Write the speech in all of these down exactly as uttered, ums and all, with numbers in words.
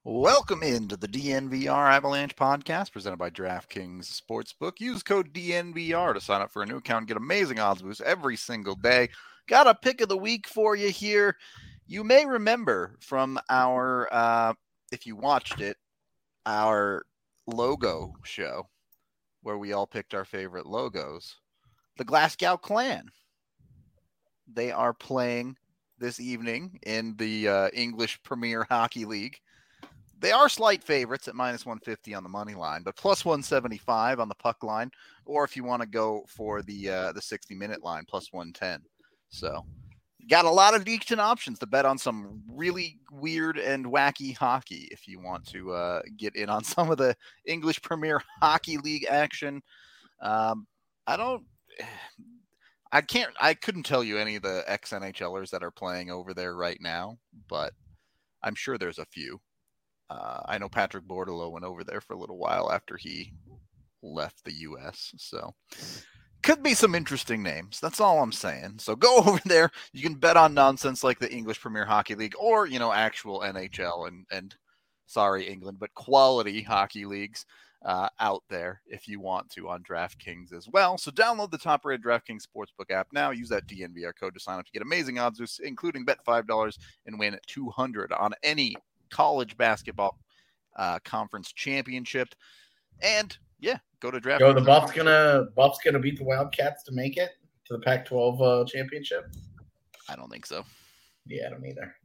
Welcome into the D N V R Avalanche podcast presented by DraftKings Sportsbook. Use code D N V R to sign up for a new account and get amazing odds boosts every single day. Got a pick of the week for you here. You may remember from our, uh, if you watched it, our logo show where we all picked our favorite logos, the Glasgow Clan. They are playing this evening in the uh, English Premier Hockey League. They are slight favorites at minus one fifty on the money line, but plus one seventy-five on the puck line, or if you want to go for the uh, the sixty-minute line, plus one ten. So got a lot of decent options to bet on some really weird and wacky hockey if you want to uh, get in on some of the English Premier Hockey League action. Um, I don't... I can't... I couldn't tell you any of the ex-N H Lers that are playing over there right now, but I'm sure there's a few. Uh, I know Patrick Bordeleau went over there for a little while after he left the U S, so could be some interesting names. That's all I'm saying. So go over there. You can bet on nonsense like the English Premier Hockey League or, you know, actual N H L and, and sorry, England, but quality hockey leagues uh, out there if you want to on DraftKings as well. So download the top-rated DraftKings Sportsbook app now. Use that D N V R code to sign up to get amazing odds, including bet five dollars and win two hundred dollars on any college basketball uh, conference championship. And yeah, go to draft. Go, the Buffs gonna Buffs gonna beat the Wildcats to make it to the Pac twelve uh, championship? I don't think so. Yeah, I don't either.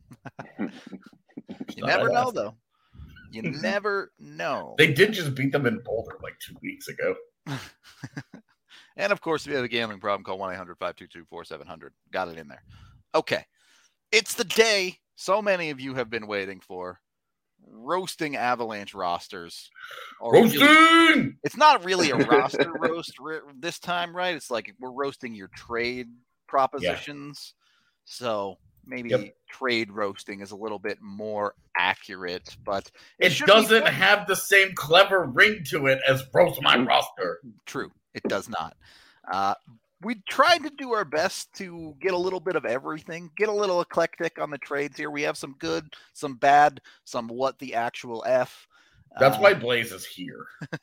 You never know, though. You never know. They did just beat them in Boulder like two weeks ago. And of course, if you have a gambling problem, call one eight hundred five two two four seven zero zero. Got it in there. Okay. It's the day so many of you have been waiting for. Roasting Avalanche rosters. Roasting! Really, it's not really a roster roast this time, right? It's like we're roasting your trade propositions. Yeah. So maybe yep. trade roasting is a little bit more accurate, but it, it doesn't have the same clever ring to it as roast my roster. True. It does not. Uh, We tried to do our best to get a little bit of everything, get a little eclectic on the trades here. We have some good, some bad, some what the actual F. That's uh, why Blaze is here.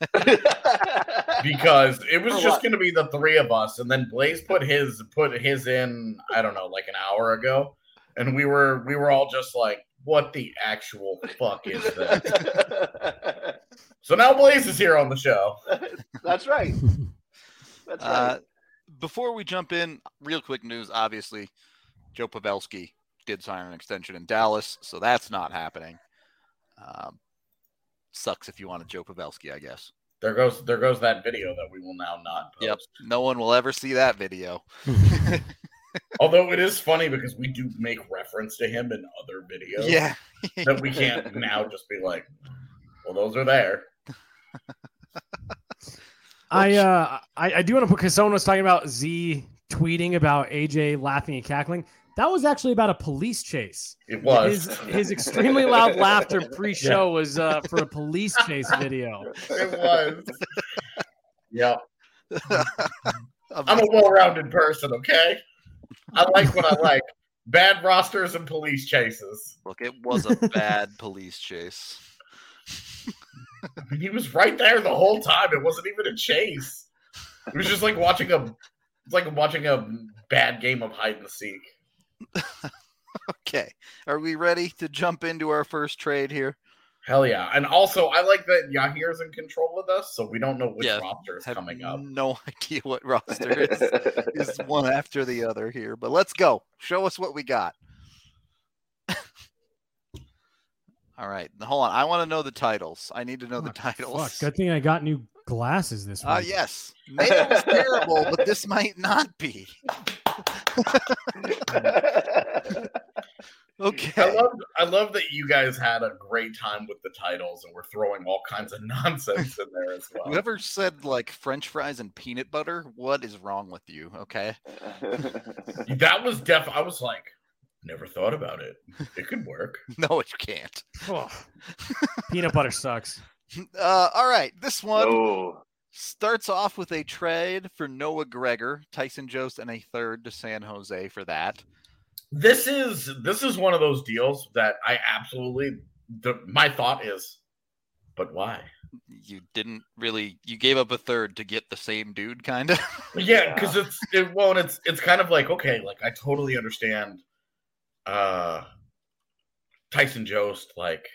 Because it was just going to be the three of us, and then Blaze put his put his in, I don't know, like an hour ago, and we were we were all just like, what the actual fuck is this? So now Blaze is here on the show. That's right. That's right. Uh, Before we jump in, real quick news, obviously, Joe Pavelski did sign an extension in Dallas, so that's not happening. Um, sucks if you wanted Joe Pavelski, I guess. There goes there goes that video that we will now not post. Yep, no one will ever see that video. Although it is funny because we do make reference to him in other videos. Yeah. That we can't now just be like, well, those are there. I uh I, I do want to put, because someone was talking about Z tweeting about A J laughing and cackling. That was actually about a police chase. It was. His, his extremely loud laughter pre-show yeah. was uh, for a police chase video. It was. Yeah. I'm a well-rounded person, okay? I like what I like. Bad rosters and police chases. Look, it was a bad police chase. I mean, he was right there the whole time. It wasn't even a chase. It was just like watching a, it's like watching a bad game of hide and seek. Okay, are we ready to jump into our first trade here? Hell yeah! And also, I like that Yahir's in control of us, so we don't know which yeah, roster is coming up. No idea what roster is, is one after the other here. But let's go. Show us what we got. All right. Hold on. I want to know the titles. I need to know oh, the titles. Fuck. Good thing I got new glasses this week. Uh, yes. Mayo was terrible, but this might not be. Okay. I love I love that you guys had a great time with the titles and we're throwing all kinds of nonsense in there as well. Whoever said like French fries and peanut butter, what is wrong with you? Okay. That was def I was like, never thought about it. It could work. No, it can't. Oh. Peanut butter sucks. Uh, all right. This one oh. starts off with a trade for Noah Gregor, Tyson Jost, and a third to San Jose for that. This is this is one of those deals that I absolutely the my thought is, but why? You didn't really. You gave up a third to get the same dude, kind of. Yeah, because it's it, well, and it's it's kind of like okay, like I totally understand. Uh, Tyson Jost, like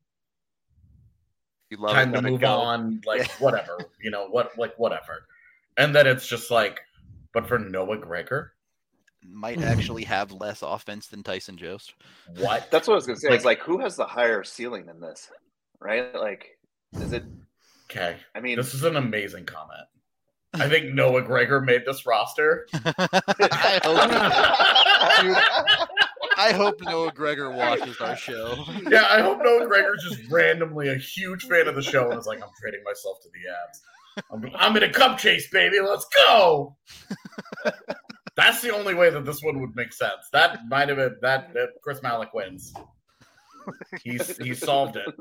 You love time it, to let it move go. on, like Yeah. whatever, you know what, like whatever, and then it's just like, but for Noah Gregor, Might actually have less offense than Tyson Jost. what? That's what I was gonna say. Like- It's like, who has the higher ceiling in this, right? Like, is it? Okay, I mean, this is an amazing comment. I think Noah Gregor made this roster. I hope. Dude, I hope Noah Gregor watches our show. Yeah, I hope Noah Gregor's just randomly a huge fan of the show and is like, I'm trading myself to the Abs. I'm, I'm in a cup chase, baby. Let's go. That's the only way that this one would make sense. That might have been that, that Chris Malik wins. He's he solved it.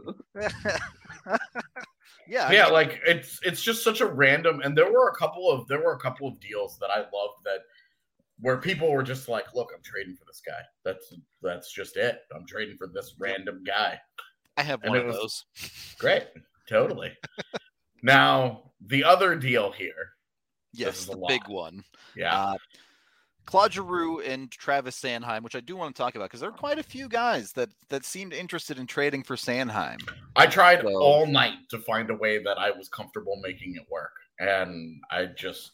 Yeah, I Yeah, mean, like it's it's just such a random. And there were a couple of there were a couple of deals that I loved that where people were just like, look, I'm trading for this guy. That's that's just it. I'm trading for this random guy. I have and one it of was- those. Great. Totally. Now, the other deal here. Yes, is the a big lot. one. Yeah. Uh, Claude Giroux and Travis Sanheim, which I do want to talk about because there are quite a few guys that that seemed interested in trading for Sanheim. I tried so- all night to find a way that I was comfortable making it work. And I just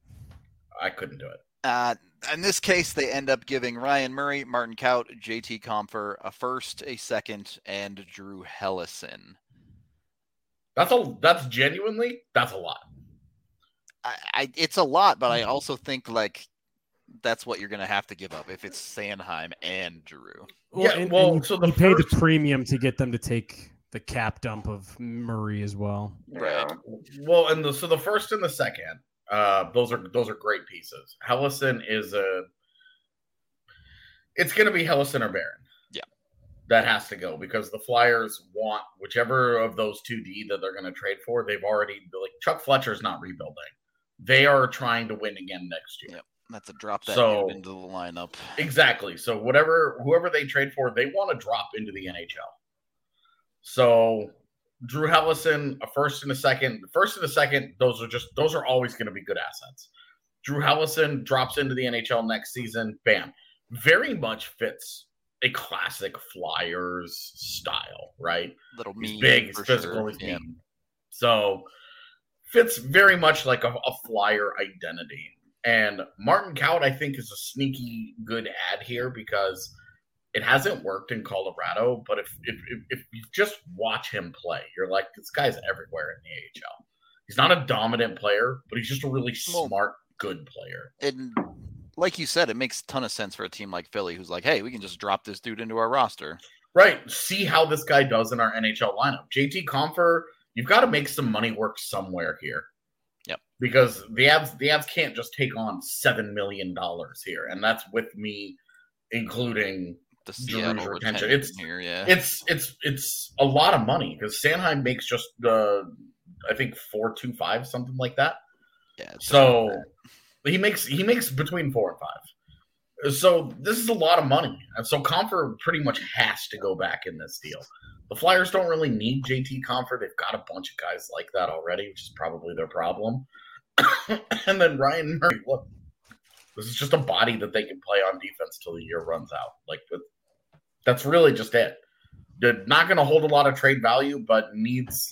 I couldn't do it. Uh, in this case, they end up giving Ryan Murray, Martin Kaut, J T Compher, a first, a second, and Drew Hellison. That's a that's genuinely that's a lot. I, I, it's a lot, but I also think like that's what you're going to have to give up if it's Sanheim and Drew. Yeah, and, well, and you, so the you pay the first- premium to get them to take the cap dump of Murray as well. yeah. Well, and the, so the first and the second, uh, those are those are great pieces. Hellison is a. It's going to be Hellison or Barron. Yeah. That has to go because the Flyers want whichever of those two D that they're going to trade for. They've already like Chuck Fletcher's not rebuilding. They are trying to win again next year. Yep. That's a drop that So- dude into the lineup. Exactly. So whatever whoever they trade for, they want to drop into the N H L. So Drew Hellison, a first and a second. The first and the second, those are just those are always going to be good assets. Drew Hellison drops into the N H L next season. Bam. Very much fits a classic Flyers style, right? Little He's mean, big, he's for physical, sure. he's Yeah. mean. So fits very much like a, a Flyer identity. And Martin Kaut, I think, is a sneaky good ad here because it hasn't worked in Colorado. But if if, if, if you just watch him play, you're like, this guy's everywhere in the A H L. He's not a dominant player, but he's just a really Well- smart, good player. And like you said, it makes a ton of sense for a team like Philly who's like, hey, we can just drop this dude into our roster. Right. See how this guy does in our N H L lineup. J T Compher, you've got to make some money work somewhere here. Yep. Because the Avs, the Avs can't just take on seven million dollars here, and that's with me including The Drew's Seattle retention. retention It's- here, yeah. it's it's it's a lot of money because Sanheim makes just uh, I think four two five something like that. yeah it's So he makes he makes between four and five. So this is a lot of money, and so Compher pretty much has to go back in this deal. The Flyers don't really need J T Compher; they've got a bunch of guys like that already, which is probably their problem. And then Ryan Murray, look, this is just a body that they can play on defense till the year runs out. Like that's really just it. They're not going to hold a lot of trade value, but needs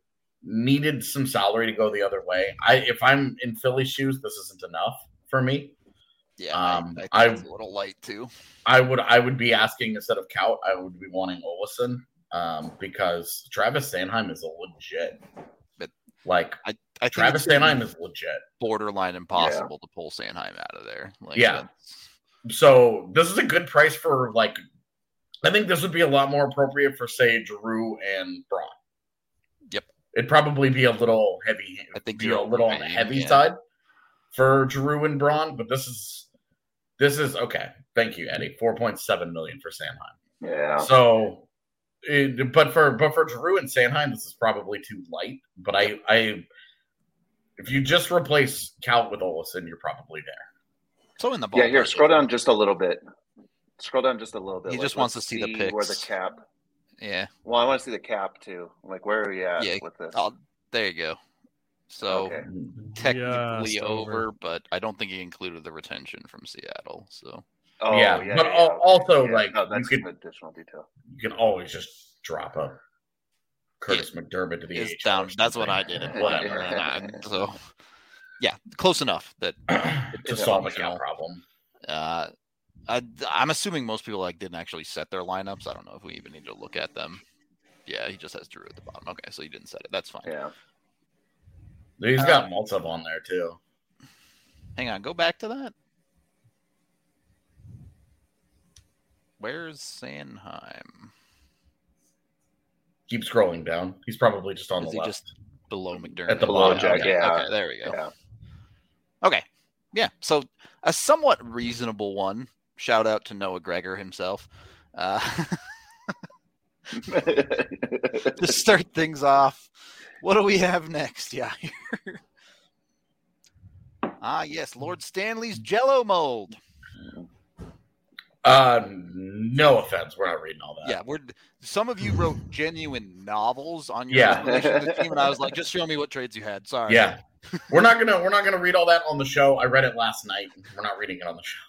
needed some salary to go the other way. I if I'm in Philly's shoes, this isn't enough for me. yeah, um, I, I think I- it's a little light too. I would I would be asking instead of Kaut, I would be wanting Olesen um, because Travis Sanheim is a legit. But like I, I think Travis it's gonna be Sanheim is legit. borderline impossible to pull Sanheim out of there. Like, Yeah. that's- So this is a good price for like. I think this would be a lot more appropriate for say Drew and Braun. Yep. It'd probably be a little heavy. I think be you're a little on the overpaying, heavy yeah. side for Drew and Braun, but this is this is okay. Thank you, Eddie. Four point seven million for Sanheim. Yeah. So, it, but for but for Drew and Sanheim, this is probably too light. But I I if you just replace Kaut with Olesen, you're probably there. So in the Yeah, here, ballpark. scroll down just a little bit. Scroll down just a little bit. He Like, just wants let's to see the where the picks. cap. Yeah. Well, I want to see the cap too. Like, where are we at Yeah. with this? I'll, there you go. So Okay. technically Just over, over. but I don't think he included the retention from Seattle. So Oh, Yeah, yeah, but yeah, al- okay, also, yeah. like, no, you that's could- an additional detail. You can always just drop a Curtis McDermott to the is A H L. down. That's what I did. And whatever. Yeah. And I, so yeah, close enough that to it's solve a functional. cap problem. Uh, I, I'm assuming most people like didn't actually set their lineups. I don't know if we even need to look at them. Yeah, he just has Drew at the bottom. Okay, so he didn't set it. That's fine. Yeah. He's got Maltsov on there too. Hang on, go back to that. Where's Sanheim? Keep scrolling down. He's probably just on Is the he left. just below McDermott? At the Below bottom. Jack, Okay, yeah. okay, there we go. Yeah. Okay. Yeah. So a somewhat reasonable one. Shout out to Noah Gregor himself. Uh, to start things off, what do we have next? Yeah. ah, yes. Lord Stanley's Jello mold. Uh, no offense. We're not reading all that. Yeah. We're some of you wrote genuine novels on your Yeah. relation to the team, and I was like, just show me what trades you had. Sorry. Yeah. We're not gonna we're not gonna read all that on the show. I read it last night. We're not reading it on the show.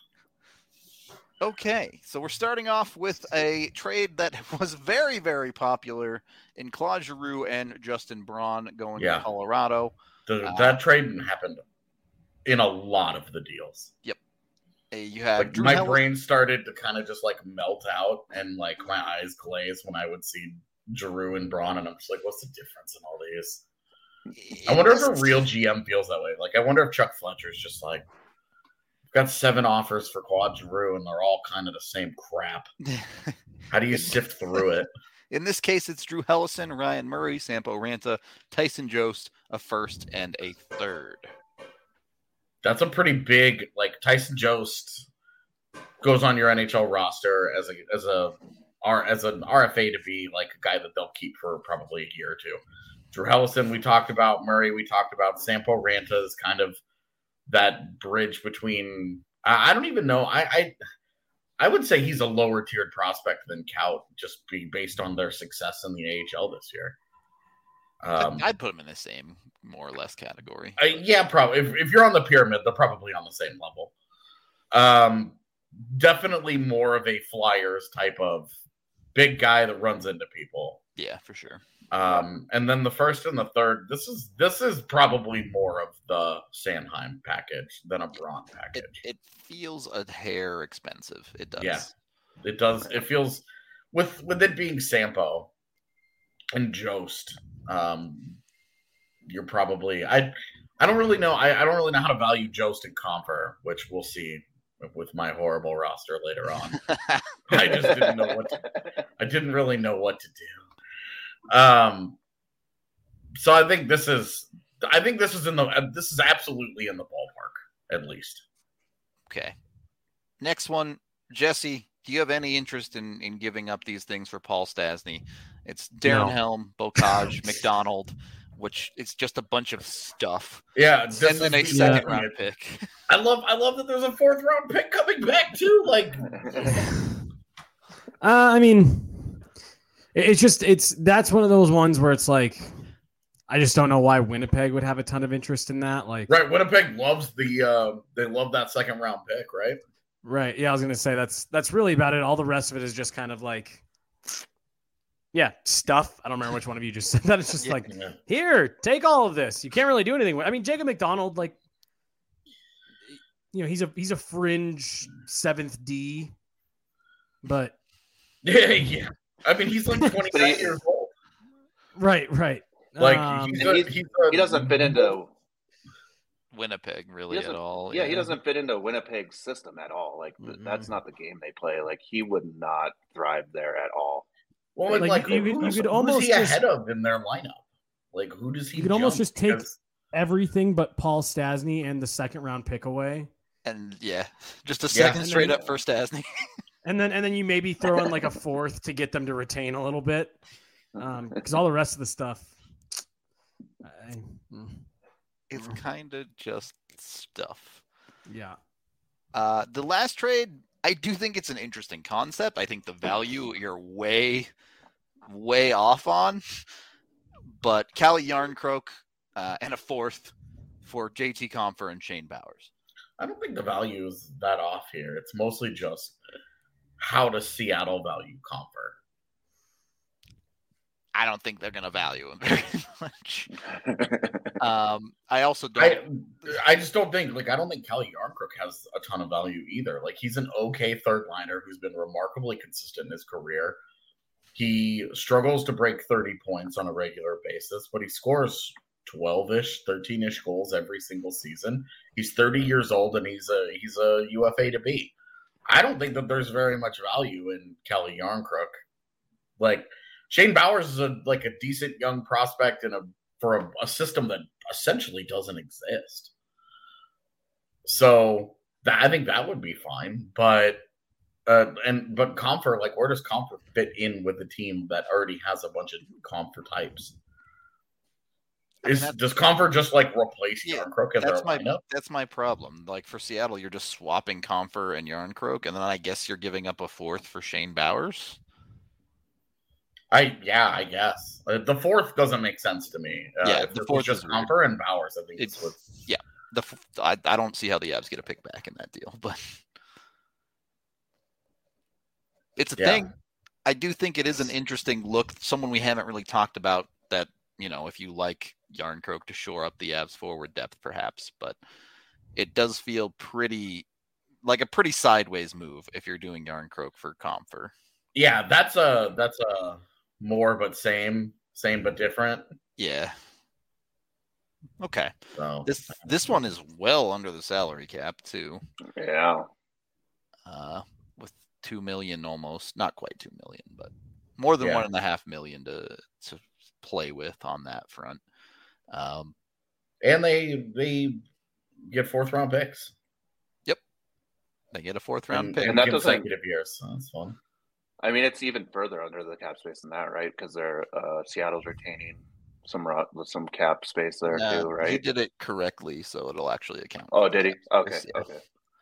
Okay, so we're starting off with a trade that was very, very popular in Claude Giroux and Justin Braun going Yeah. to Colorado. The, Uh, that trade happened in a lot of the deals. Uh, You have Like Drew my Hellas- brain started to kind of just like melt out, and like my eyes glaze when I would see Giroux and Braun, and I'm just like, what's the difference in all these? I wonder if a real G M feels that way. Like, I wonder if Chuck Fletcher's just like, I've got seven offers for Claude Giroux, and they're all kind of the same crap. How do you sift through it? In this case, it's Drew Hellison, Ryan Murray, Sampo Ranta, Tyson Jost, a first and a third. That's a pretty big, like, Tyson Jost goes on your N H L roster as a as a R as an R F A to be like a guy that they'll keep for probably a year or two. Drew Hellison, we talked about. Murray, we talked about. Sampo Ranta is kind of that bridge between. I, I don't even know. I, I I would say he's a lower tiered prospect than Kaut, just be based on their success in the A H L this year. Um, I'd put him in the same, more or less, category. I, yeah, probably. If, if you're on the pyramid, they're probably on the same level. Um, definitely more of a Flyers type of big guy that runs into people. Yeah, for sure. Um, and then the first and the third, this is this is probably more of the Sanheim package than a Braun It, package. it feels a hair expensive. It does. Yeah. It does. It feels with with it being Sampo and Jost. Um, you're probably I. I don't really know. I, I don't really know how to value Jost and Comfer, which we'll see with my horrible roster later on. I just didn't know what to, I didn't really know what to do. Um, so I think this is I think this is in the this is absolutely in the ballpark, at least. Okay. Next one, Jesse. Do you have any interest in, in giving up these things for Paul Stastny? It's Darren No. Helm, Bocage, McDonald, which it's just a bunch of stuff. Yeah, this And then a is the second ultimate- round pick. I love I love that there's a fourth round pick coming back too. Like Uh, I mean, it- it's just it's that's one of those ones where it's like, I just don't know why Winnipeg would have a ton of interest in that. Like, right, Winnipeg loves the uh they love that second round pick, right? right? Yeah, I was gonna say that's that's really about it. All the rest of it is just kind of like, yeah, stuff. I don't remember which one of you just said that. It's just Yeah. like, Yeah. here, take all of this. You can't really do anything with. I mean, Jacob McDonald, like, you know, he's a he's a fringe seventh D, but Yeah, yeah. I mean, he's like twenty-nine he- years old. right, right. Like Um, he's, And a, he's- he's a, he doesn't fit into Winnipeg, really, He at doesn't- all. yeah, he doesn't fit into Winnipeg's system at all. Like th- Mhm. that's not the game they play. Like he would not thrive there at all. Well, like, Like, like you could- who's, you could who's almost he just- ahead of in their lineup? Like, who does he? You could almost jump? just take- Because- everything but Paul Stastny and the second round pick away. And yeah, just a Yeah. second And straight then- up for Stastny. And then and then you maybe throw in like a fourth to get them to retain a little bit. Um, because all the rest of the stuff. I, mm, It's kind of just stuff. yeah. Uh, the last trade, I do think it's an interesting concept. I think the value, you're way, way off on. But Calle Yarncroke uh, and a fourth for J T Compher and Shane Bowers. I don't think the value is that off here. It's mostly just how does Seattle value Compher? I don't think they're going to value him very much. um, I also don't. I, I just don't think, like, I don't think Calle Yarncroke has a ton of value either. Like, he's an okay third liner who's been remarkably consistent in his career. He struggles to break thirty points on a regular basis, but he scores twelve-ish, thirteen-ish goals every single season. He's thirty years old, and he's a he's a U F A to be. I don't think that there's very much value in Calle Yarncroke. Like, Shane Bowers is a like a decent young prospect in a for a, a system that essentially doesn't exist. So that, I think that would be fine, but uh, and but Compher, like, where does Compher fit in with the team that already has a bunch of Compher types? Is, I mean, does Compher just like replace yeah, Yarncroke in that's their my lineup? That's my problem. Like, for Seattle, you're just swapping Compher and Yarncroke, and then I guess you're giving up a fourth for Shane Bowers. I yeah, I guess uh, the fourth doesn't make sense to me. Uh, yeah, if the it fourth was just is weird. Compher and Bowers. I think it's, it's what's... yeah. The I, I don't see how the Avs get a pick back in that deal, but it's a yeah. thing. I do think it is an interesting look. Someone we haven't really talked about that, you know, if you like Yarncroke to shore up the Avs forward depth, perhaps, but it does feel pretty like a pretty sideways move if you're doing Yarncroke for Compher. Yeah, that's a that's a more but same, same but different. Yeah. Okay. So this this one is well under the salary cap too. Yeah. Uh, with two million almost, not quite two million, but more than yeah. one and a half million to to play with on that front. Um, and they they get fourth round picks. Yep, they get a fourth round and, pick and that consecutive years. So that's fun. I mean, it's even further under the cap space than that, right? Because they're uh, Seattle's retaining some some cap space there no, too, right? He did it correctly, so it'll actually account. Oh, did he? Okay, yeah. okay.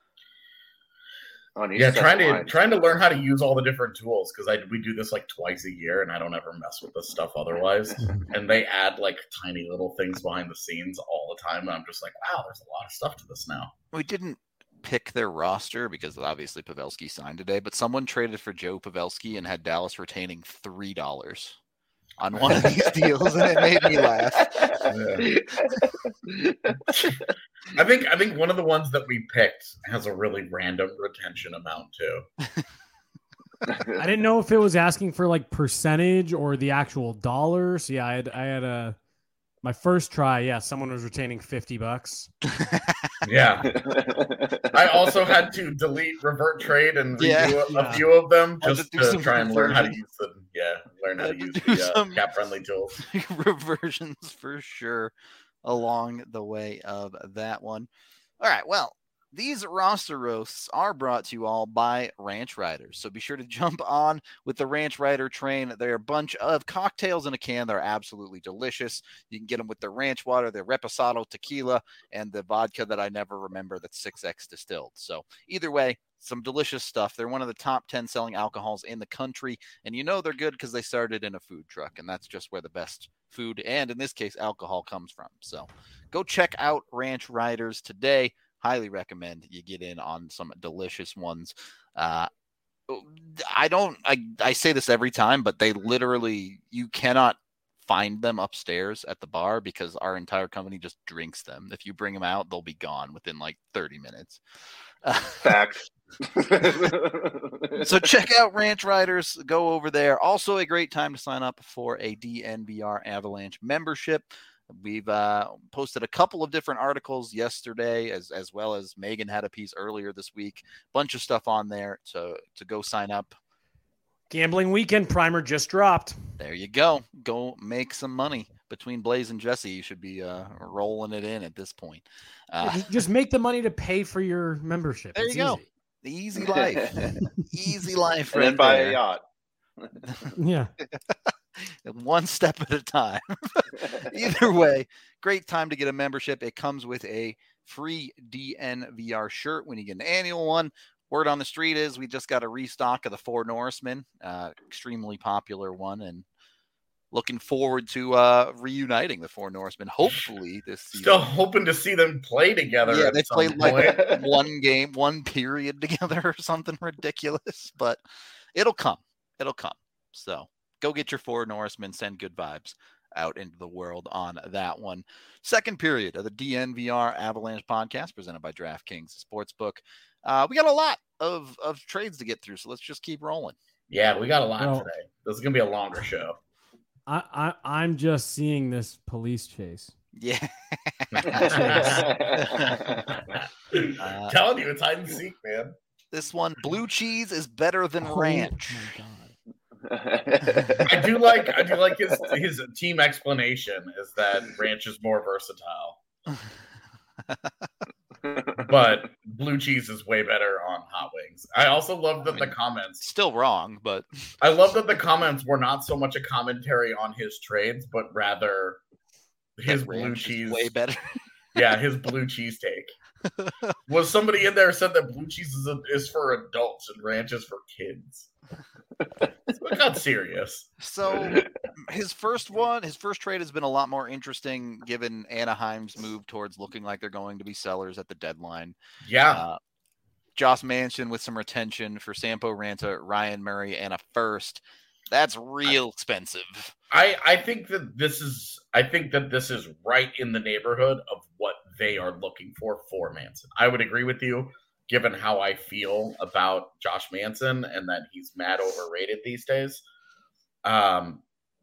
Oh, yeah, trying to trying to learn how to use all the different tools because I we do this like twice a year, and I don't ever mess with this stuff otherwise. And they add like tiny little things behind the scenes all the time, and I'm just like, wow, there's a lot of stuff to this now. We didn't pick their roster because obviously Pavelski signed today, but someone traded for Joe Pavelski and had Dallas retaining three dollars on one of these deals, and it made me laugh. Yeah. I think I think one of the ones that we picked has a really random retention amount too. I didn't know if it was asking for like percentage or the actual dollars. Yeah, I had I had a my first try. Yeah, someone was retaining fifty bucks. Yeah. I also had to delete revert trade and redo yeah, a, yeah. a few of them just to, to to try and learn how to use the yeah, learn how to use the uh, cap friendly tools. Reversions for sure along the way of that one. All right, well, these roster roasts are brought to you all by Ranch Riders. So be sure to jump on with the Ranch Rider train. They're a bunch of cocktails in a can. They're absolutely delicious. You can get them with the ranch water, the reposado tequila, and the vodka that I never remember that's six X distilled. So either way, some delicious stuff. They're one of the top ten selling alcohols in the country. And you know they're good because they started in a food truck. And that's just where the best food and, in this case, alcohol comes from. So go check out Ranch Riders today. Highly recommend you get in on some delicious ones. Uh, I don't, I, I say this every time, but they literally, you cannot find them upstairs at the bar because our entire company just drinks them. If you bring them out, they'll be gone within like thirty minutes. Facts. So check out Ranch Riders. Go over there. Also a great time to sign up for a D N V R Avalanche membership. We've uh, posted a couple of different articles yesterday, as as well as Megan had a piece earlier this week. Bunch of stuff on there to, to go sign up. Gambling weekend primer just dropped. There you go. Go make some money. Between Blaze and Jesse, you should be uh, rolling it in at this point. Uh, just, just make the money to pay for your membership. There it's you go. Easy. The easy life. Easy life. And right then buy there. a yacht. Yeah. One step at a time. Either way, great time to get a membership. It comes with a free D N V R shirt when you get an annual one. Word on the street is we just got a restock of the Four Norsemen, uh, extremely popular one, and looking forward to uh, reuniting the Four Norsemen. Hopefully this season. Still hoping to see them play together. Yeah, at they some played point. like one game, one period together or something ridiculous, but it'll come. It'll come. So go get your Four Norsemen, send good vibes out into the world on that one. Second period of the D N V R Avalanche podcast presented by DraftKings Sportsbook. Uh, we got a lot of, of trades to get through, so let's just keep rolling. Yeah, we got a lot Well, today. This is going to be a longer show. I, I I'm just seeing this police chase. Yeah. uh, telling you, it's hide and seek, man. This one, blue cheese is better than Oh, ranch. my God. I do like I do like his his team explanation is that ranch is more versatile. But blue cheese is way better on hot wings. I also love that I mean, the comments Still wrong, but I love that the comments were not so much a commentary on his trades, but rather his that blue ranch is cheese. way better. Yeah, his blue cheese take. Was somebody in there said that blue cheese is, a, is for adults and ranch is for kids? So it got serious. So his first one, his first trade has been a lot more interesting given Anaheim's move towards looking like they're going to be sellers at the deadline. Yeah. Uh, Josh Manson with some retention for Sampo Ranta, Ryan Murray, and a first. That's real expensive. I, I think that this is I think that this is right in the neighborhood of what they are looking for for Manson. I would agree with you, given how I feel about Josh Manson and that he's mad overrated these days. Um,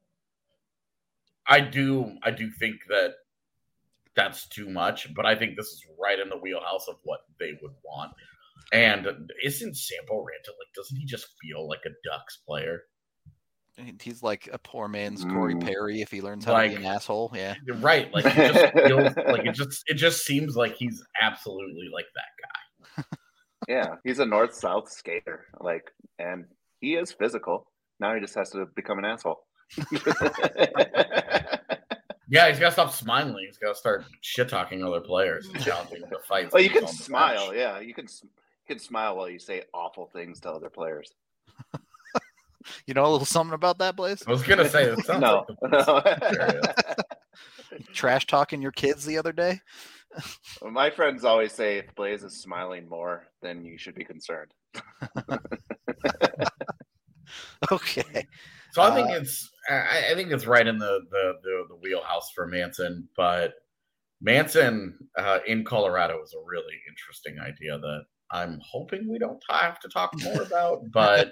I do I do think that that's too much, but I think this is right in the wheelhouse of what they would want. And isn't Sampo Ranta like? Doesn't he just feel like a Ducks player? He's like a poor man's Corey Mm. Perry if he learns how Like- to be an asshole. Yeah. You're right. Like he just feels like it just it just seems like he's absolutely like that guy. Yeah, he's a north-south skater, like, and he is physical. Now he just has to become an asshole. Yeah, he's got to stop smiling. He's got to start shit talking other players and challenging the fights. Well, you he's can on the smile. bench. Yeah, you can. You can smile while you say awful things to other players. You know a little something about that, Blaze? I was gonna say it sounds No. like the Trash talking your kids the other day? My friends always say if Blaze is smiling more, then you should be concerned. Okay. So I think Uh, it's I, I think it's right in the, the the the wheelhouse for Manson, but Manson uh, in Colorado is a really interesting idea that I'm hoping we don't have to talk more about. But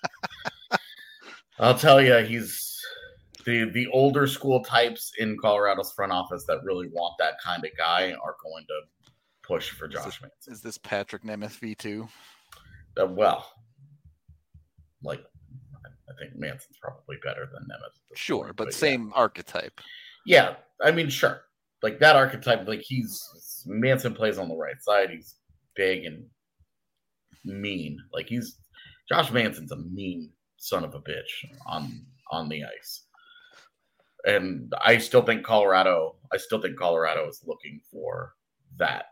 I'll tell you, he's the the older school types in Colorado's front office that really want that kind of guy are going to push for Josh Manson. Is this Patrick Nemeth V two? Uh, well, like I think Manson's probably better than Nemeth. at this Sure, point, but yeah. same archetype. Yeah, I mean, sure. Like that archetype, like he's Manson plays on the right side. He's big and mean. Like he's Josh Manson's a mean son of a bitch on on the ice. And I still think Colorado, I still think Colorado is looking for that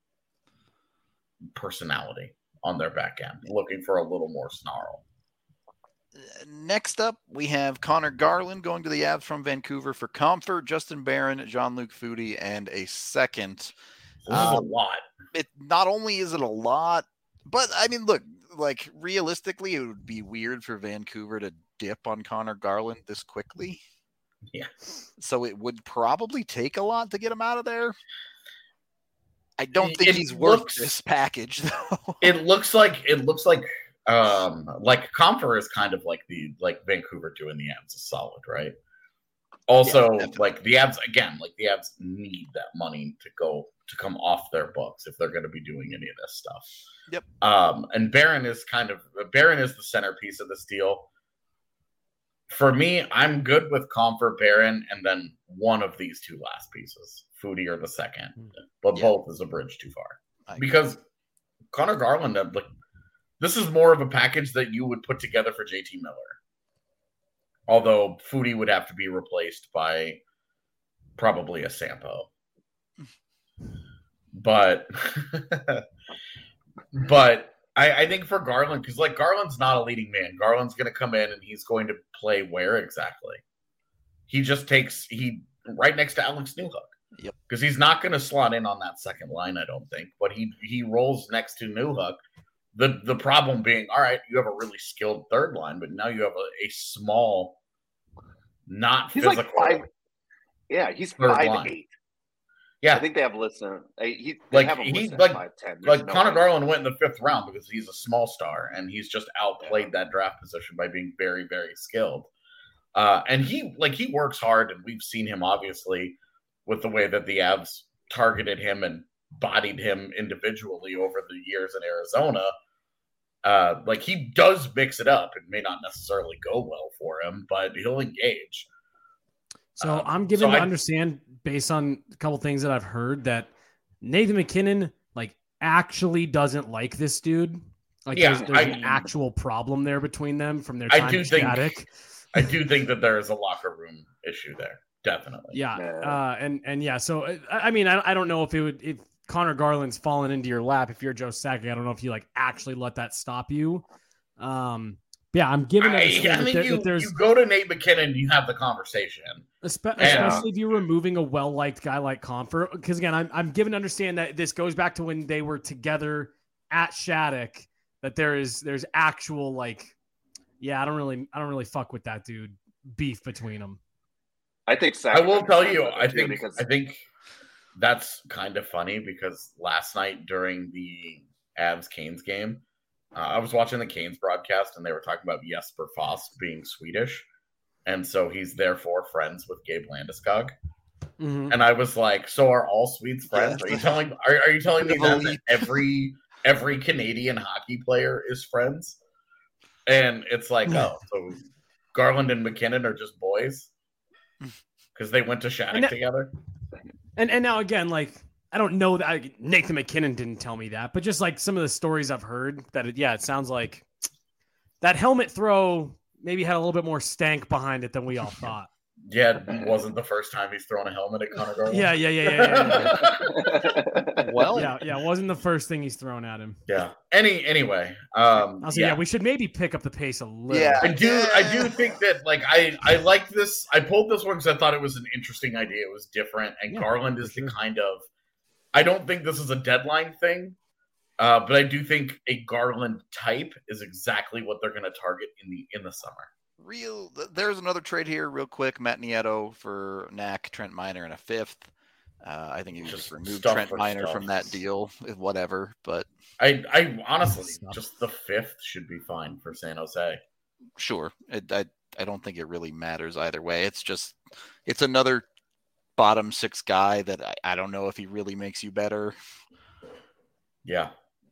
personality on their back end, looking for a little more snarl. Next up, we have Connor Garland going to the Avs from Vancouver for Comfort, Justin Barron, Jean-Luc Foudy, and a second. This is a Um, lot. It not only is it a lot, but I mean, look, like realistically, it would be weird for Vancouver to dip on Connor Garland this quickly. Yeah. So it would probably take a lot to get him out of there. I don't It- think it he's worth looks- this package, though. It looks like it looks like um like Comfer is kind of like the like Vancouver doing the Avs is solid, right? Also, Yeah, definitely. like the Avs again, like the Avs need that money to go to come off their books if they're going to be doing any of this stuff. Yep. Um, and Barron is kind of Barron is the centerpiece of this deal. For me, I'm good with Comfer, Barron, and then one of these two last pieces, Foudy or the second, but Yeah. both is a bridge too far I- because Connor Garland, uh, like this is more of a package that you would put together for J T Miller. Although Foudy would have to be replaced by probably a Sampo. But but I, I think for Garland, because like Garland's not a leading man. Garland's gonna come in and he's going to play where exactly? he just takes he right next to Alex Newhook. Yep. Because he's not going to slot in on that second line, I don't think. But he he rolls next to Newhook. The the problem being, all right, you have a really skilled third line, but now you have a, a small, not He's physical. like five, yeah, he's third five line. eight. Yeah, I think they have listed. He they like have him he listed like five ten. like no Connor way. Garland went in the fifth round because he's a small star and he's just outplayed that draft position by being very very skilled. Uh, and he like he works hard, and we've seen him obviously with the way that the Avs targeted him and bodied him individually over the years in Arizona. Uh, like he does mix it up. It may not necessarily go well for him, but he'll engage. So Um, I'm given so to I- understand, based on a couple things that I've heard, that Nathan McKinnon like actually doesn't like this dude. Like Yeah, there's, there's I- an actual problem there between them from their I time do in think- Shattuck. I do think that there is a locker room issue there, definitely. Yeah, Yeah. uh, and and yeah. So uh, I I mean, I, I don't know if it would if Connor Garland's fallen into your lap. If you're Joe Sakic, I don't know if you like actually let that stop you. Um, but yeah, I'm giving I, it. I think you, you go to Nate McKinnon, you have the conversation. Espe- And- especially if you're removing a well-liked guy like Comfort, because again, I'm I'm given to understand that this goes back to when they were together at Shattuck. That there is there's actual like, yeah, I don't really I don't really fuck with that dude. Beef between them. I think. I will Sakic tell is you, better I too, think because I think that's kind of funny because last night during the Avs Canes game, uh, I was watching the Canes broadcast and they were talking about Jesper Foss being Swedish, and so he's therefore friends with Gabe Landeskog. Mm-hmm. And I was like, "So are all Swedes friends? Yeah. Are you telling? Are, are you telling me The that, elite. that every every Canadian hockey player is friends?" And it's like, oh, so Garland and McKinnon are just boys because they went to Shattuck And that- together. And and now again, like I don't know that I, Nathan McKinnon didn't tell me that, but just like some of the stories I've heard, that it, yeah, it sounds like that helmet throw maybe had a little bit more stank behind it than we all thought. Yeah, it wasn't the first time he's thrown a helmet at Connor Garland. Yeah, yeah, yeah, yeah, yeah. Yeah, Well, yeah, yeah. It wasn't the first thing he's thrown at him. yeah. Any anyway, um, Also, yeah. yeah. we should maybe pick up the pace a little. Yeah. I do. I do think that like I I like this. I pulled this one because I thought it was an interesting idea. It was different, and Yeah, Garland is for the sure. kind of. I don't think this is a deadline thing, uh, but I do think a Garland type is exactly what they're going to target in the in the summer. real. th- There's another trade here, real quick. Matt Nieto for Knack, Trent Miner, and a fifth. Uh, I think you Just just remove stuff Trent for Miner stuff. from that deal, eh, whatever. But I I honestly Stuff. just the fifth should be fine for San Jose. sure, it, I I don't think it really matters either way. It's just it's another bottom six guy that I, I don't know if he really makes you better. Yeah.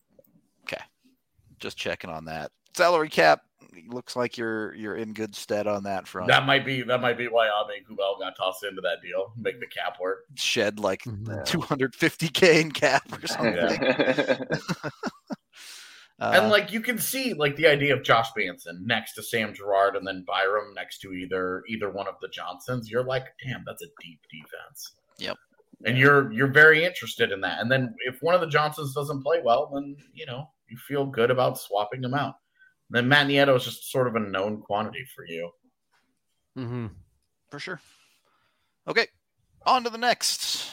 Just checking on that salary cap. Looks like you're you're in good stead on that front. That might be that might be why Abe Kubel got tossed into that deal. Make the cap work. Shed like Mhm. two hundred fifty K in cap or something. Yeah. Uh, And like you can see like the idea of Josh Manson next to Sam Girard and then Byram next to either either one of the Johnsons. You're like, damn, that's a deep defense. Yep. And you're you're very interested in that. And then if one of the Johnsons doesn't play well, then you know you feel good about swapping them out. And then Matt Nieto is just sort of a known quantity for you. Mm-hmm. for sure. Okay, on to the next.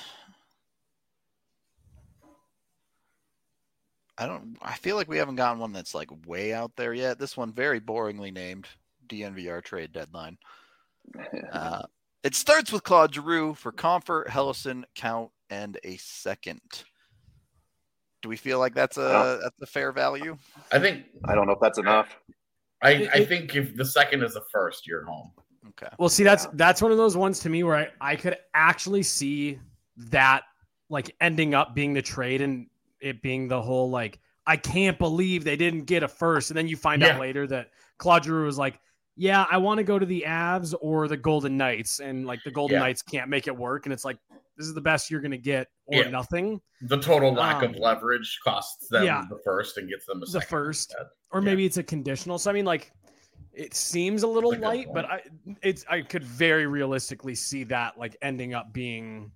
I don't. I feel like we haven't gotten one that's like way out there yet. This one very boringly named D N V R trade deadline. Uh, it starts with Claude Giroux for Comfort, Hellison, Count, and a second. Do we feel like that's a that's a fair value? I think I don't know if that's enough. I, It- I it- think if the second is the first, you're home. Okay. Well, see, that's that's one of those ones to me where I, I could actually see that like ending up being the trade and it being the whole like I can't believe they didn't get a first, and then you find Yeah. out later that Claude Giroux was like, yeah, I want to go to the Avs or the Golden Knights, and like the Golden Yeah. Knights can't make it work, and it's like this is the best you're gonna get or Yeah. nothing. The total lack Um, of leverage costs them yeah. the first and gets them a The second first. instead. Or Yeah. maybe it's a conditional. So I mean, like, it seems a little That's a good light, point. but I it's I could very realistically see that like ending up being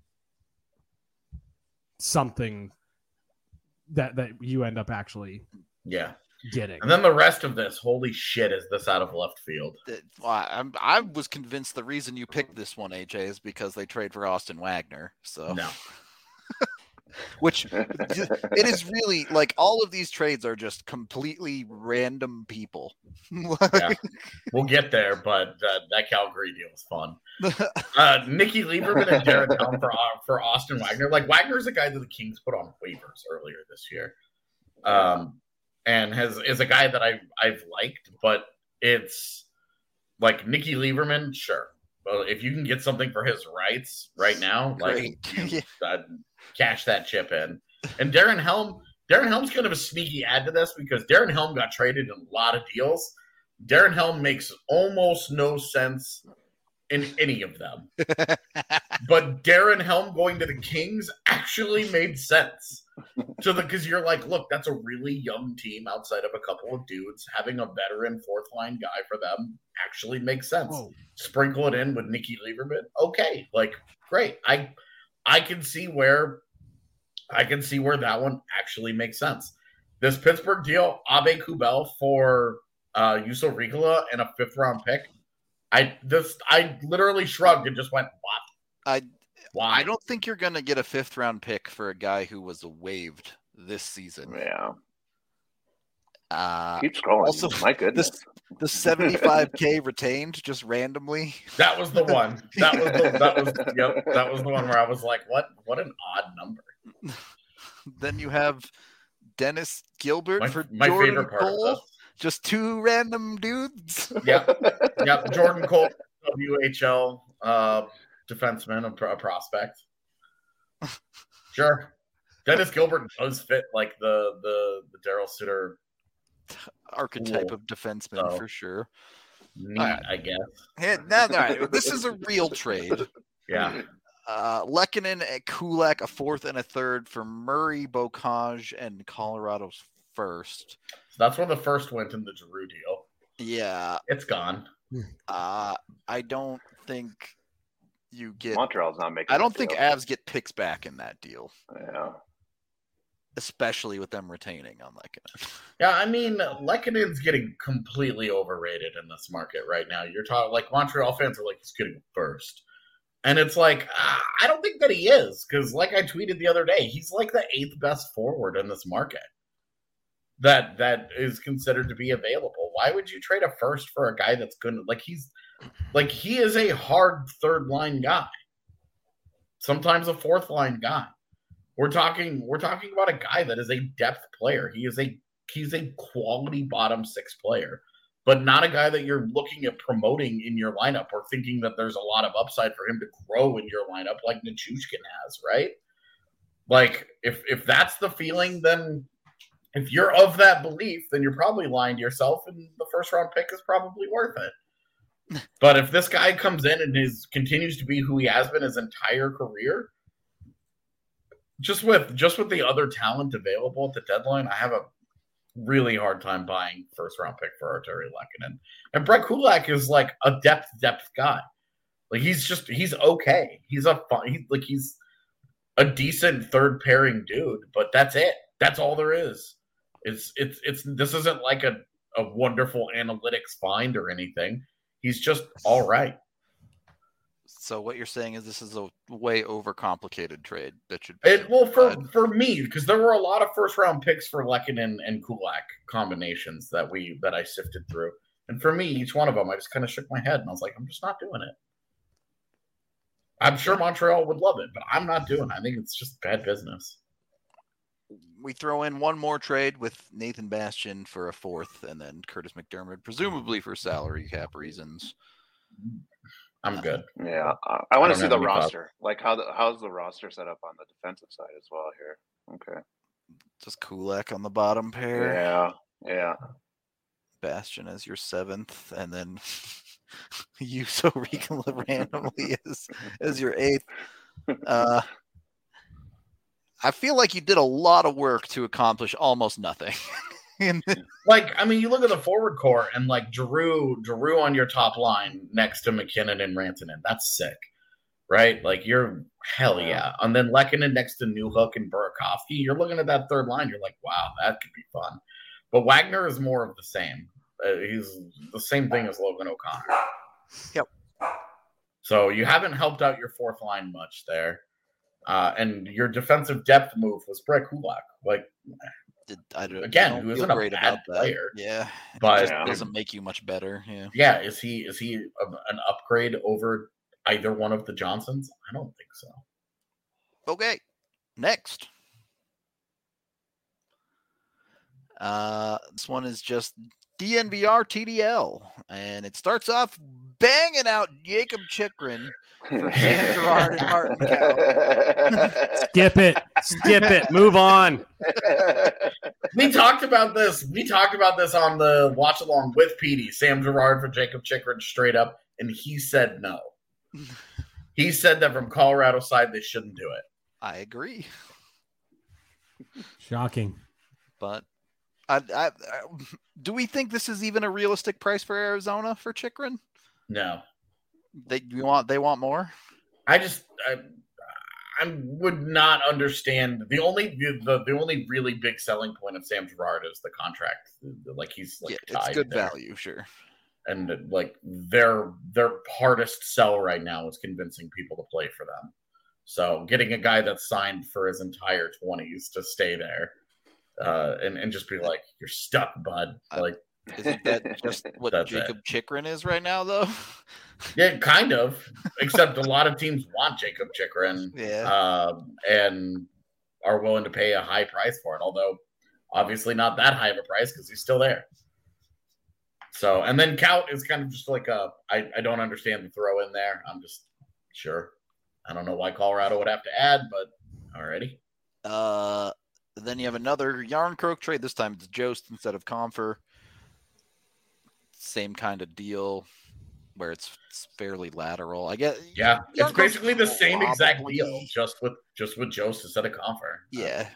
something that that you end up actually Yeah. getting. And then the rest of this, holy shit, is this out of left field? I, I was convinced the reason you picked this one, A J, is because they trade for Austin Wagner. So no. Which it is really like all of these trades are just completely random people. Yeah. We'll get there, but uh, that Calgary deal was fun. Uh, Nikki Lieberman and Darren Helm for uh, for Austin Wagner. Like Wagner's a guy that the Kings put on waivers earlier this year, um, and has is a guy that I I've liked, but it's like Nikki Lieberman, sure. Well, if you can get something for his rights right now, like you, uh, cash that chip in. And Darren Helm, Darren Helm's kind of a sneaky add to this because Darren Helm got traded in a lot of deals. Darren Helm makes almost no sense in any of them. But Darren Helm going to the Kings actually made sense. So because you're like, look, that's a really young team outside of a couple of dudes. Having a veteran fourth line guy for them actually makes sense. Whoa. Sprinkle it in with Nikki Lieberman. Okay, like great. I I can see where I can see where that one actually makes sense. This Pittsburgh deal, Abe Kubel for uh Juuso Riikola and a fifth round pick. I this I literally shrugged and just went, what? I Why? I don't think you're gonna get a fifth round pick for a guy who was waived this season. Yeah. Uh, Keep scrolling. Also, my goodness. This, the seventy-five K retained just randomly. That was the one. That was the, that was yep. That was the one where I was like, what? What an odd number. Then you have Dennis Gilbert my, for my Jordan favorite part Cole. of this. Just two random dudes. Yep. Yep. Jordan Cole, W H L uh, defenseman, a, a prospect. Sure. Dennis Gilbert does fit like the the the Daryl Sutter archetype cool. of defenseman so, for sure. Neat, right. I guess. Hey, no, no, this is a real trade. Yeah. Uh, Lehkonen and Kulak, a fourth and a third for Murray, Bocage, and Colorado's first. So that's where the first went in the Giroux deal. Yeah. It's gone. Uh, I don't think you get... Montreal's not making I don't think deal. Avs get picks back in that deal. Yeah. Especially with them retaining on Lehkonen. Yeah, I mean, Lehkonen's getting completely overrated in this market right now. You're talking like Montreal fans are like, he's getting first. And it's like, uh, I don't think that he is. Because like I tweeted the other day, he's like the eighth best forward in this market that that is considered to be available. Why would you trade a first for a guy that's good? Like he's like he is a hard third line guy. Sometimes a fourth line guy. We're talking we're talking about a guy that is a depth player. He is a he's a quality bottom six player, but not a guy that you're looking at promoting in your lineup or thinking that there's a lot of upside for him to grow in your lineup like Nichushkin has, right? Like if if that's the feeling, then if you're of that belief, then you're probably lying to yourself, and the first round pick is probably worth it. But if this guy comes in and is continues to be who he has been his entire career, just with just with the other talent available at the deadline, I have a really hard time buying first round pick for Artturi Lehkonen. And Brett Kulak is like a depth depth guy. Like he's just he's okay. He's a fun, he, like he's a decent third pairing dude, but that's it. That's all there is. It's it's it's this isn't like a, a wonderful analytics find or anything. He's just all right. So what you're saying is this is a way overcomplicated trade that should be it, well for for me, because there were a lot of first round picks for Lehkonen and Kulak combinations that we that I sifted through. And for me, each one of them, I just kind of shook my head and I was like, I'm just not doing it. I'm sure Montreal would love it, but I'm not doing it. I think it's just bad business. We throw in one more trade with Nathan Bastian for a fourth, and then Curtis McDermott, presumably for salary cap reasons. I'm good. Yeah, I, I want to see the roster. Thought. Like how the, how's the roster set up on the defensive side as well here? Okay, just Kulak on the bottom pair. Yeah, yeah. Bastian as your seventh, and then Juuso Riikola randomly as as your eighth. Uh, I feel like you did a lot of work to accomplish almost nothing. Like, I mean, you look at the forward core and like Giroux, Giroux on your top line next to McKinnon and Rantanen. That's sick, right? Like you're hell yeah. And then Lehkonen next to Newhook and Burakovsky. You're looking at that third line. You're like, wow, that could be fun. But Wagner is more of the same. Uh, he's the same thing as Logan O'Connor. Yep. So you haven't helped out your fourth line much there. Uh, and your defensive depth move was Brett Kulak. Like, Did, I don't, Again, I don't who feel isn't a great bad about that. player. Yeah, but it Yeah. doesn't make you much better. Yeah. yeah, is he is he a, an upgrade over either one of the Johnsons? I don't think so. Okay, next. Uh, this one is just D N V R T D L, and it starts off banging out Jacob Chikrin for Sam Girard and Martin Kaut. Skip it. Skip it. Move on. We talked about this. We talked about this on the watch along with Petey. Sam Girard for Jacob Chikrin straight up, and he said no. He said that from Colorado side they shouldn't do it. I agree, Shocking. but I, I, I, do we think this is even a realistic price for Arizona for Chikrin? No, They you want they want more? I just I, I would not understand the only the, the only really big selling point of Sam Girard is the contract. Like he's like Yeah, tied it's good there. value, sure. And like their their hardest sell right now is convincing people to play for them. So getting a guy that's signed for his entire twenties to stay there, uh, and and just be like, you're stuck, bud. Like, Isn't that just what That's Jacob Chikrin is right now, though? yeah, kind of. Except a lot of teams want Jacob Chikrin, Yeah. um, and are willing to pay a high price for it. Although, obviously, not that high of a price because he's still there. So, and then Kaut is kind of just like a I, I don't understand the throw in there. I'm just sure. I don't know why Colorado would have to add, but alrighty. Uh, then you have another Yarn Croak trade. This time it's Jost instead of Comfer. Same kind of deal where it's, it's fairly lateral. I guess. Yeah, it's Yarn Croak's basically the same exact probably- deal, just with just with Jost instead of Confer. Yeah.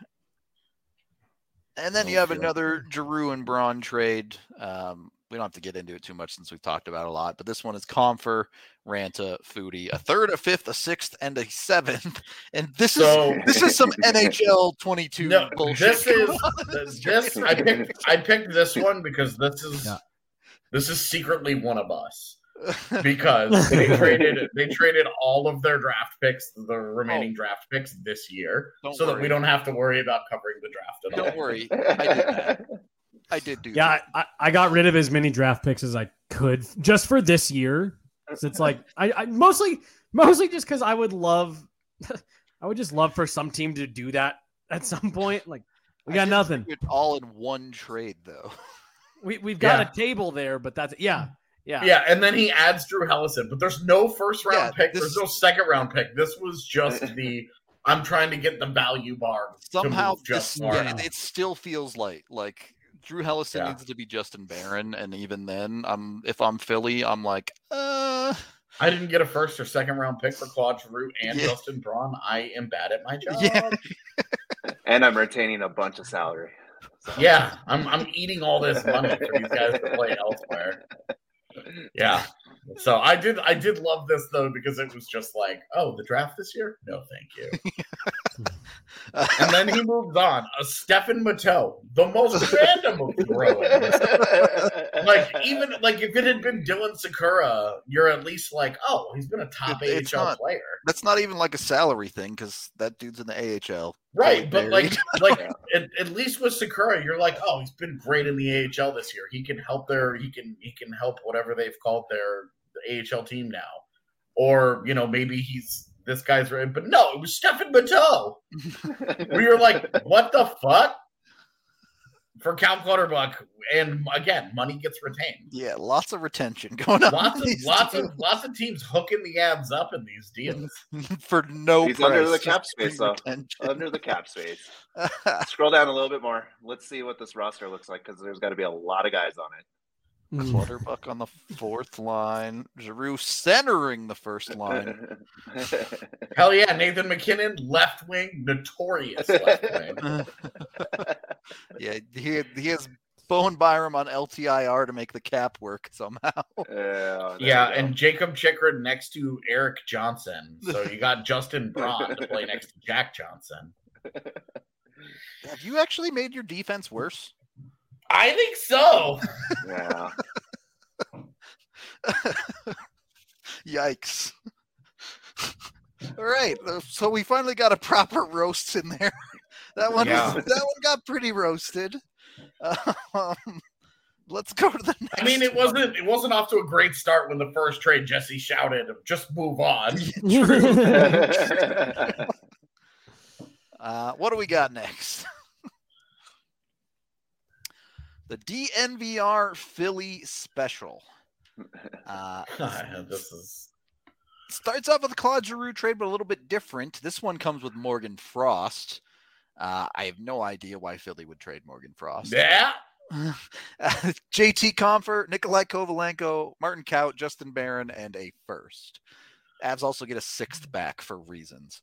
And then Don't you have feel- another Giroux and Braun trade. Um, we don't have to get into it too much since we've talked about it a lot, but this one is Comfer, Ranta, Foodie, a third, a fifth, a sixth, and a seventh. And this So- is this is some N H L twenty-two No, bullshit. this is this. I picked I picked this one because this is Yeah. this is secretly one of us. Because they traded they traded all of their draft picks, the remaining draft picks this year, Don't so that worry. we don't have to worry about covering the draft at all. Don't worry, I did that. I did do Yeah, that. I, I got rid of as many draft picks as I could just for this year. So it's like I, I mostly mostly just because I would love I would just love for some team to do that at some point. Like we I got didn't nothing. do it all in one trade, though. We we've got Yeah. a table there, but that's yeah. Yeah. Yeah, and then he adds Drew Hellison, but there's no first round Yeah, pick. this- There's no second round pick. This was just the I'm trying to get the value bar. to Somehow, move just this, far yeah, enough. it, it still feels like like Drew Hellison Yeah. needs to be Justin Barron, and even then, I'm if I'm Philly, I'm like, uh, I didn't get a first or second round pick for Claude Giroux and Yeah. Justin Braun. I am bad at my job. Yeah. And I'm retaining a bunch of salary. So. Yeah, I'm I'm eating all this money for these guys to play elsewhere. Yeah. So I did I did love this though because it was just like, oh, the draft this year? No, thank you. And then he moves on. A Stefan Matteau, the most random of throw-ins. Like even like if it had been Dylan Sakura, you're at least like, oh, he's been a top It- it's A H L not. player. that's not even like a salary thing because that dude's in the A H L. Right, Fully but like, buried. like at, at least with Sakura, you're like, oh, he's been great in the A H L this year. He can help their, he can, he can help whatever they've called their A H L team now, or you know, maybe he's this guy's right. But no, it was Stefan Matteau. We were like, what the fuck? For Cal Clutterbuck, and again, money gets retained. Yeah, lots of retention going on. Lots in of these lots deals of lots of teams hooking the abs up in these deals. for no He's price. under the just cap for space, though. retention. Under the cap space. Scroll down a little bit more. Let's see what this roster looks like because there's got to be a lot of guys on it. Mm. Clutterbuck on the fourth line. Giroux centering the first line. Hell yeah, Nathan McKinnon, left wing, notorious left wing. yeah, he he has Bowen Byram on L T I R to make the cap work somehow. Yeah, there Yeah, we go. and Jacob Chikrin next to Eric Johnson. So you got Justin Braun to play next to Jack Johnson. Have you actually made your defense worse? I think so. Yeah. Yikes. All right. So we finally got a proper roast in there. That one, Yeah. that one got pretty roasted. Um, let's go to the next I mean, it one. wasn't it wasn't off to a great start when the first trade Jesse shouted, "Just move on." Uh, what do we got next? The D N V R Philly Special. Uh, This is starts off with the Claude Giroux trade, but a little bit different. This one comes with Morgan Frost. Uh, I have no idea why Philly would trade Morgan Frost. yeah. Uh, J T Comfort, Nikolai Kovalenko, Martin Kaut, Justin Barron, and a first. Avs also get a sixth back for reasons.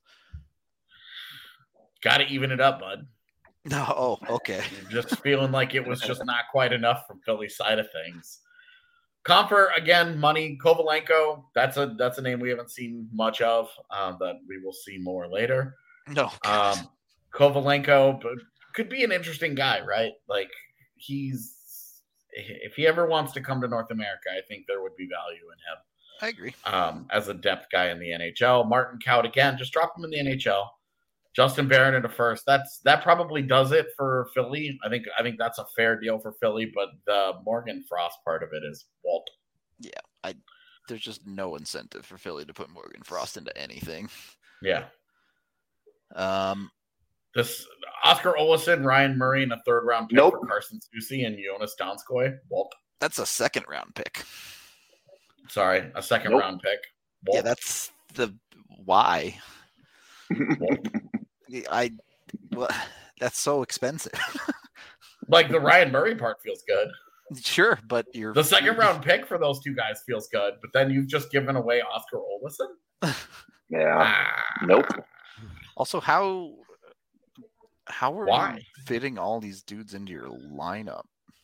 Got to even it up, bud. No, oh, okay. Just feeling like it was just not quite enough from Philly's side of things. Comfort again, money. Kovalenko, that's a that's a name we haven't seen much of. Um, that we will see more later. No, Um, Kovalenko but could be an interesting guy, right? Like he's if he ever wants to come to North America, I think there would be value in him. I agree. Um, as a depth guy in the N H L. Martin Kaut again, just drop him in the N H L. Justin Barron at a first. That's that probably does it for Philly. I think I think that's a fair deal for Philly, but the Morgan Frost part of it is Walt. Yeah, I. There's just no incentive for Philly to put Morgan Frost into anything. Yeah. Um, This Oscar Olesen, Ryan Murray, and a third round pick Nope. for Carson Soucy and Jonas Donskoy. Walt. that's a second round pick. Sorry, a second Nope. round pick. Walt. Yeah, that's the why. Walt. I. Well, that's so expensive. Like the Ryan Murray part feels good. Sure, but you're The second round pick for those two guys feels good, but then you've just given away Oscar Olesen. Yeah. Ah. Nope. Also, how how are Why? you fitting all these dudes into your lineup?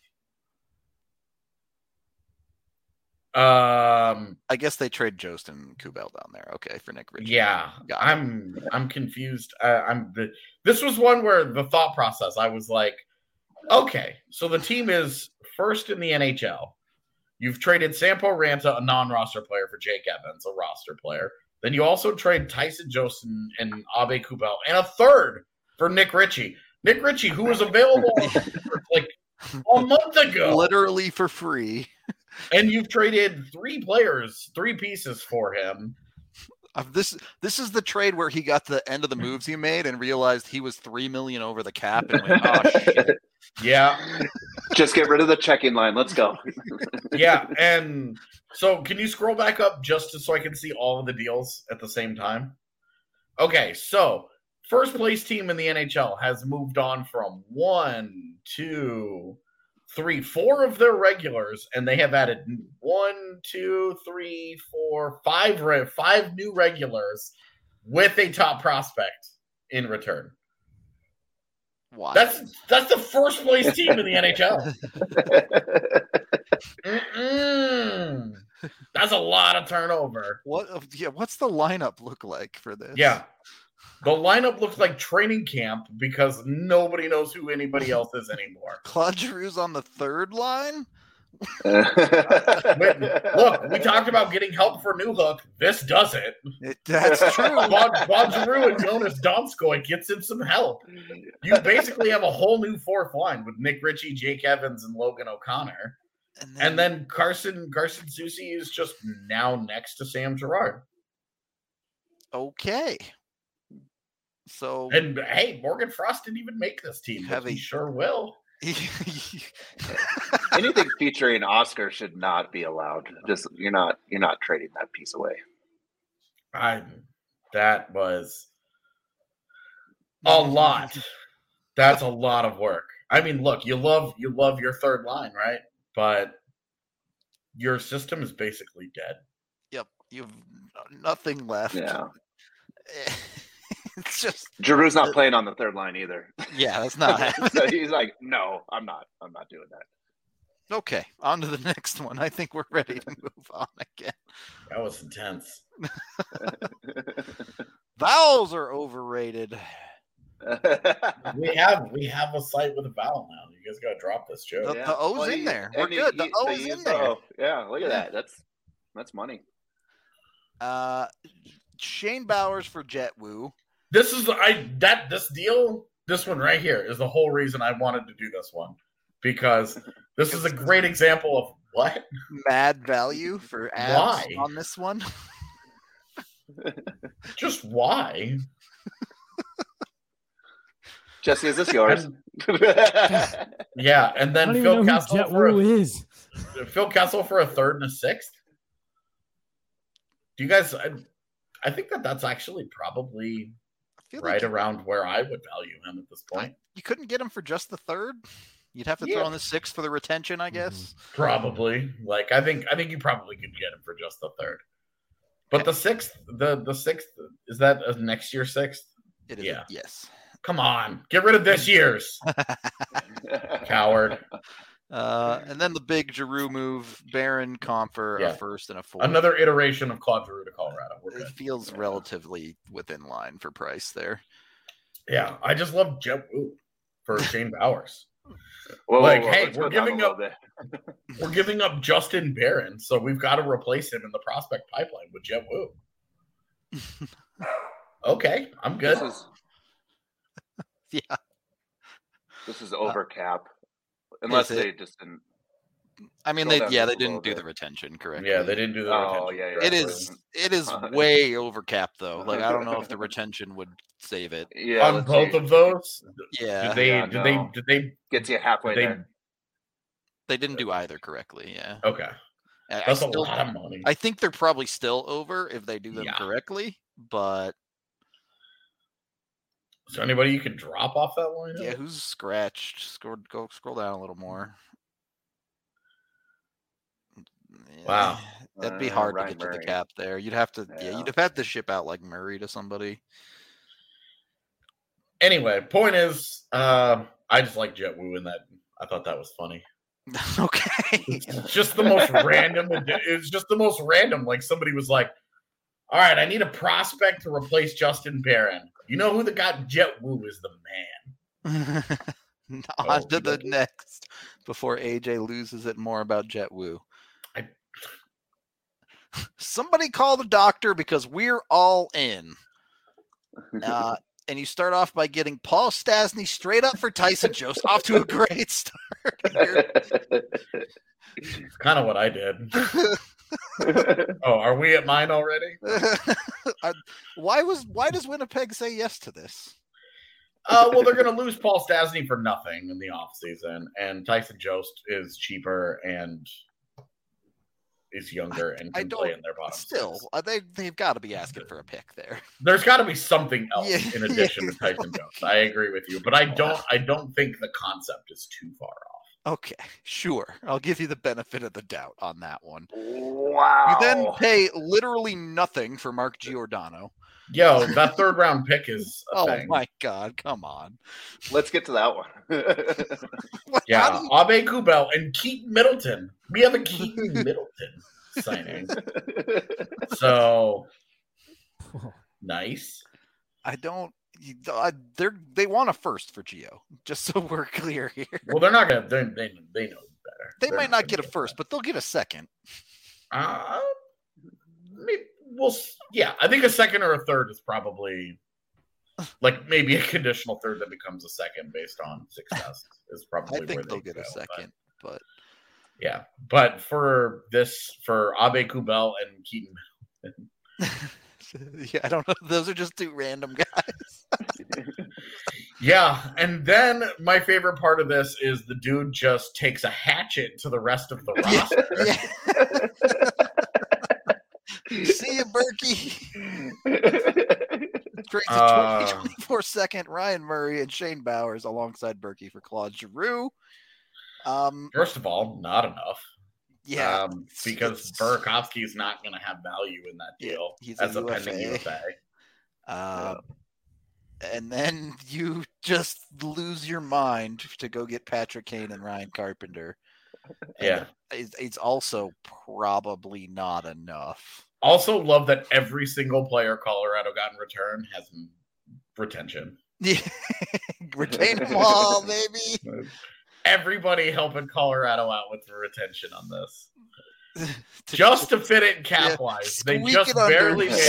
Um. I guess they trade Jost and Kubel down there. Okay, for Nick Ritchie. Yeah, Got it. I'm. I'm confused. Uh, I'm. The, this was one where the thought process. I was like, okay, so the team is first in the N H L. You've traded Sampo Ranta, a non-roster player, for Jake Evans, a roster player. Then you also trade Tyson Jost and, and Abe Kubel, and a third for Nick Ritchie. Nick Ritchie, who was available like a month ago. Literally for free. And you've traded three players, three pieces for him. Uh, this this is the trade where he got to the end of the moves he made and realized he was three million over the cap and went, oh shit. Yeah. Just get rid of the checking line. Let's go. Yeah. And so can you scroll back up just to, so I can see all of the deals at the same time? Okay. So first place team in the N H L has moved on from one, two, three, four of their regulars, and they have added one, two, three, four, five, re- five new regulars with a top prospect in return. Why? That's that's the first place team in the N H L. Mm-mm. That's a lot of turnover. what yeah, what's the lineup look like for this? Yeah. The lineup looks like training camp because nobody knows who anybody else is anymore. Claude Giroux's on the third line? Wait, look, we talked about getting help for New Hook. This does it. It, that's true. Claude, Claude Giroux and Jonas Donskoy gets him some help. You basically have a whole new fourth line with Nick Ritchie, Jake Evans, and Logan O'Connor. And then, And then Carson Carson Soucy is just now next to Sam Girard. okay. So And hey, Morgan Frost didn't even make this team, Have but he a- sure will. Anything featuring Oscar should not be allowed. Just you're not you're not trading that piece away. I that was a lot. That's a lot of work. I mean, look, you love you love your third line, right? But your system is basically dead. Yep, you've nothing left. Yeah. It's just Giroux's not playing on the third line either. yeah, that's not happening. So he's like, no, I'm not. I'm not doing that. Okay, on to the next one. I think we're ready to move on again. That was intense. Vowels are overrated. We have we have a site with a vowel now. You guys gotta drop this joke. The, the O's Well, in you- there. We're and good. you- The you- O they is use in the there. O. Yeah, look at Yeah. that. That's that's money. Uh, Shane Bowers for Jet Woo. This is I that this deal, this one right here is the whole reason I wanted to do this one. Because this is a great example of what? Mad value for ads Why? on this one. Just why? Jesse, is this yours? Yeah, and I then don't even Phil know who Kessel Jet for Woo a, is. Phil Kessel for a third and a sixth. Do you guys? I, I think that that's actually probably I feel right like you, around where I would value him at this point. you couldn't get him for just the third. You'd have to Yeah. throw in the sixth for the retention, I guess. Probably. Like I think I think you probably could get him for just the third. But the sixth, the the sixth, is that a next year sixth? It is. Yeah. Yes. Come on, get rid of this year's coward. Uh, and then the big Giroux move, Barron, Comfer, Yeah. a first and a fourth. Another iteration of Claude Giroux to Colorado. We're It good. feels relatively within line for price there. Yeah, I just love Jet Woo for Shane Bowers. Whoa, whoa, Like, whoa, hey, let's we're go down a giving little up- bit. We're giving up Justin Barron, so we've got to replace him in the prospect pipeline with Jet Woo. Okay, I'm good. This is Yeah. this is over cap, unless it? they just didn't. I mean, Scroll they down yeah, just they a little didn't do bit. the retention correctly. Yeah, they didn't do the Oh, retention yeah, yeah. It correctly. is it is way over cap though. Like I don't know if the retention would save it. Yeah, On let's both see. of those. Yeah, Did they? Yeah, did no. they? Did they? Gets you halfway They- there. they didn't do either correctly. Yeah, Okay, I, I that's a still, lot of money. I think they're probably still over if they do them Yeah. correctly. But Is there anybody you could drop off that line? yeah, who's scratched? Scroll go scroll down a little more. Yeah, Wow. that'd be Uh, hard Ryan to get to Murray. the cap there. You'd have to yeah, Yeah. you'd have had to ship out like Murray to somebody. Anyway, point is, uh, I just like Jet Woo in that. I thought that was funny. Okay. It's just the most random. It's just the most random. Like somebody was like, "All right, I need a prospect to replace Justin Barron. You know who the got Jet Woo is the man." On Oh, to the okay. next before A J loses it more about Jet Woo. I- Somebody call the doctor because we're all in. Uh, and you start off by getting Paul Stasny straight up for Tyson Jost off to a great start. here. It's kind of what I did. Oh, are we at mine already? Uh, why was why does Winnipeg say yes to this? Uh, well, they're going to lose Paul Stasny for nothing in the offseason, and Tyson Jost is cheaper and is younger and I can don't- play in their bottom Still, six. uh, they they've got to be asking for a pick there. There's got to be something else Yeah, in addition yeah, to Tyson Jost. I agree with you, but I don't. I don't think the concept is too far off. Okay, sure. I'll give you the benefit of the doubt on that one. Wow. You then pay literally nothing for Mark Giordano. Yo, that third round pick is a Oh thing. my God, come on. Let's get to that one. What- how Yeah, do you- Abe Kubel and Keaton Middleton. We have a Keaton Middleton signing, so nice. I don't. you- I, they're they want a first for Gio. Just so we're clear here. Well, they're not gonna. They're, they they know better. They They're might not gonna get a first, but they'll get a second. Uh, maybe we'll. s- Yeah, I think a second or a third is probably like maybe a conditional third that becomes a second based on success is probably. I where think they they'll get a go, but- second, but yeah, but for this, for Abe Kubel and Keaton, yeah, I don't know. Those are just two random guys. yeah, and then my favorite part of this is the dude just takes a hatchet to the rest of the roster. Yeah. See you, Berkey. Trades a Uh, twenty twenty-four second Ryan Murray and Shane Bowers alongside Berkey for Claude Giroux. Um, First of all, not enough. yeah, um, because Burakovsky is not going to have value in that Yeah, deal he's a as a U F A. pending U F A. Uh, and then you just lose your mind to go get Patrick Kane and Ryan Carpenter. And Yeah. it's, it's also probably not enough. Also, love that every single player Colorado got in return has m- retention. Yeah, retain them all, baby. everybody helping Colorado out with the retention on this. to, just to fit it in cap yeah, wise. They just barely made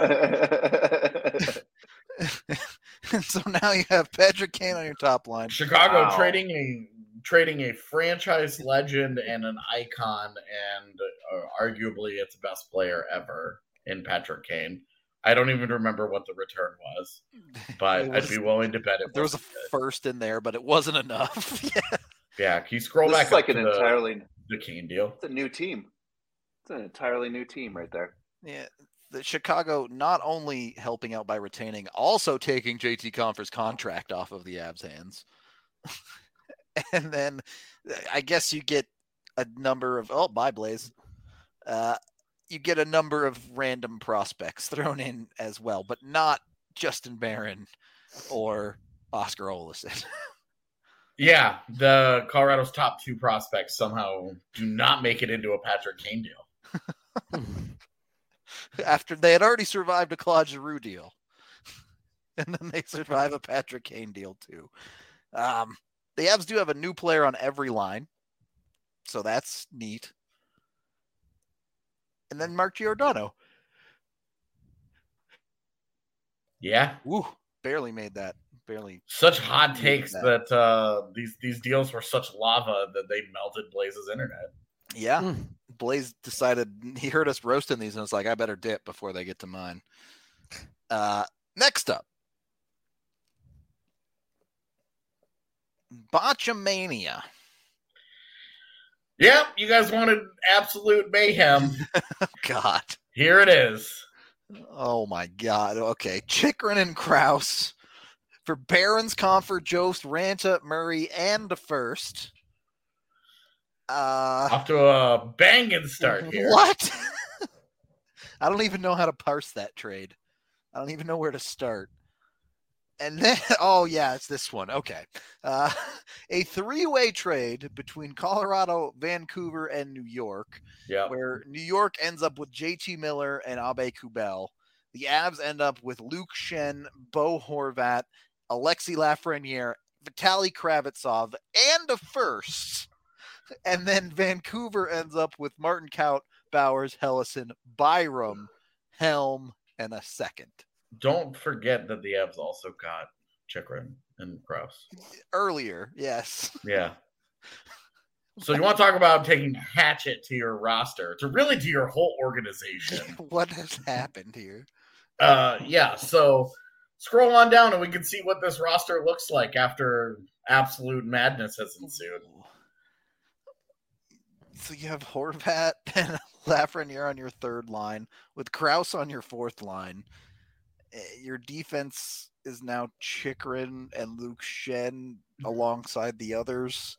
it work. So now you have Patrick Kane on your top line. Chicago wow. trading a trading a franchise legend and an icon, and uh, arguably its best player ever in Patrick Kane. I don't even remember what the return was, but was, I'd be willing to bet it. There was a good. first in there, but it wasn't enough. yeah. yeah, can you scroll this back is like up an to entirely the, the Kane deal? It's a new team. It's an entirely new team right there. Yeah, the Chicago not only helping out by retaining, also taking J T Compher's contract off of the Avs' hands. And then I guess you get a number of oh, bye Blaze. Uh, you get a number of random prospects thrown in as well, but not Justin Barron or Oscar Olesen. Yeah, the Colorado's top two prospects somehow do not make it into a Patrick Kane deal. After they had already survived a Claude Giroux deal. And then they survive a Patrick Kane deal too. Um, the Avs do have a new player on every line, so that's neat. And then Mark Giordano. Yeah. Woo, barely made that. Barely. Such hot takes that, that uh, these these deals were such lava that they melted Blaze's internet. Yeah. Mm. Blaze decided, he heard us roasting these and was like, I better dip before they get to mine. Uh, next up. Botchamania. Yep, you guys wanted absolute mayhem. God. Here it is. Oh, my God. Okay. Chychrun and Krause for Barons, Compher, Jost, Ranta, Murray, and the first. Uh, Off to a banging start here. What? I don't even know how to parse that trade. I don't even know where to start. And then, oh, yeah, it's this one. Okay. Uh, a three-way trade between Colorado, Vancouver, and New York, yeah. where New York ends up with J T Miller and Abe Kubel. The Avs end up with Luke Schenn, Bo Horvat, Alexi Lafreniere, Vitaly Kravitsov, and a first. And then Vancouver ends up with Martin Kaut, Bowers, Hellison, Byram, Helm, and a second. Don't forget that the Avs also got Chychrun and Krause. Earlier, yes. Yeah. So you want to talk about taking hatchet to your roster, to really to your whole organization. What has happened here? Uh, yeah, so scroll on down and we can see what this roster looks like after absolute madness has ensued. So you have Horvat and Lafreniere on your third line, with Krause on your fourth line. Your defense is now Chychrun and Luke Schenn alongside the others.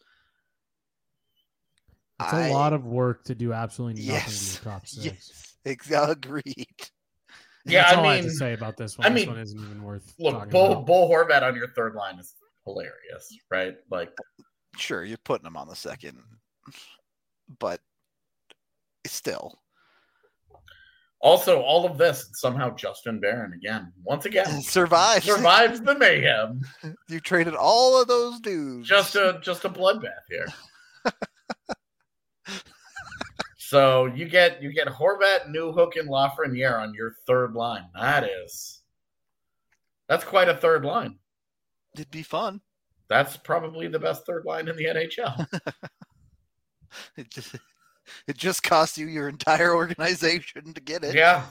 It's a I, lot of work to do absolutely nothing yes, to the top six. Yes, agreed. Yeah, That's I all mean, I have to say about this one. I this mean, one isn't even worth look, Bo, Bo Horvat on your third line is hilarious, right? Like, sure, you're putting him on the second, but still. Also, all of this, somehow Justin Barron again, once again, survives survives the mayhem. You traded all of those dudes. Just a just a bloodbath here. So you get you get Horvat, Newhook, and Lafreniere on your third line. That is, that's quite a third line. It'd be fun. That's probably the best third line in the N H L. It just. It just cost you your entire organization to get it. Yeah.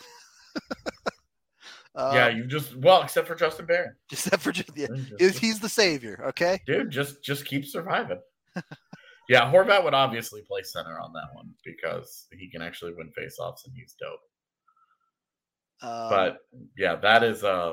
um, yeah, you just well, except for Justin Barron. Except for just yeah, just, he's the savior. Okay, dude, just just keep surviving. Yeah, Horvat would obviously play center on that one because he can actually win faceoffs and he's dope. Um, but yeah, that is uh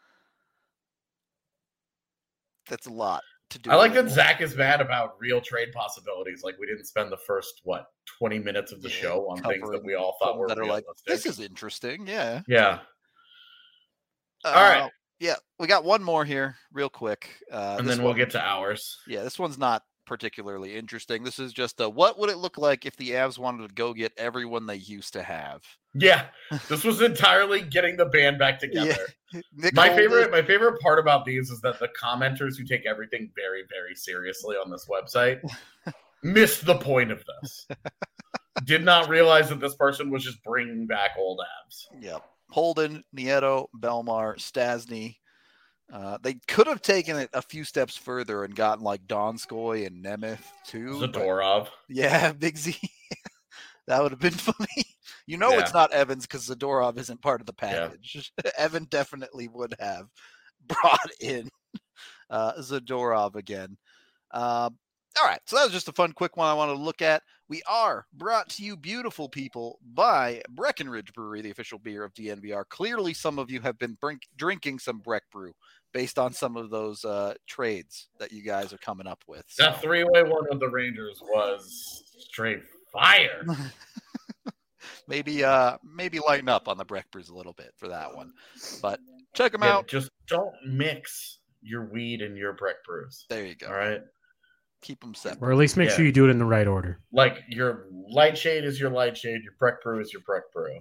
that's a lot. I like that Zach is mad about real trade possibilities. Like we didn't spend the first what twenty minutes of the yeah, show on things that we all thought were that realistic. Are like, this is interesting. Yeah. Yeah. Uh, all right. Yeah, we got one more here, real quick, uh, and then one, we'll get to ours. Yeah, this one's not particularly interesting. This is just a what would it look like if the Avs wanted to go get everyone they used to have? Yeah, this was entirely getting the band back together. Yeah. Nick My Holden- favorite, my favorite part about these is that the commenters who take everything very, very seriously on this website missed the point of this. Did not realize that this person was just bringing back old Avs. Yep. Holden, Nieto, Belmar, Stasny. Uh, they could have taken it a few steps further and gotten like Donskoy and Nemeth too. but- Zadorov. Yeah, Big Z. That would have been funny. You know Yeah. it's not Evans because Zadorov isn't part of the Yeah. package. Evan definitely would have brought in uh, Zadorov again. Um, all right, so that was just a fun, quick one I wanted to look at. We are brought to you, beautiful people, by Breckenridge Brewery, the official beer of D N V R. Clearly, some of you have been brink- drinking some Breck Brew based on some of those uh, trades that you guys are coming up with. So. That three-way one with the Rangers was straight fire. maybe uh maybe lighten up on the Breck Brews a little bit for that one, but check them Yeah, out. just don't mix your weed and your Breck brews. There you go. All right. Keep them separate. Or at least make Yeah. sure you do it in the right order. Like your light shade is your light shade, your Breck brew is your Breck brew.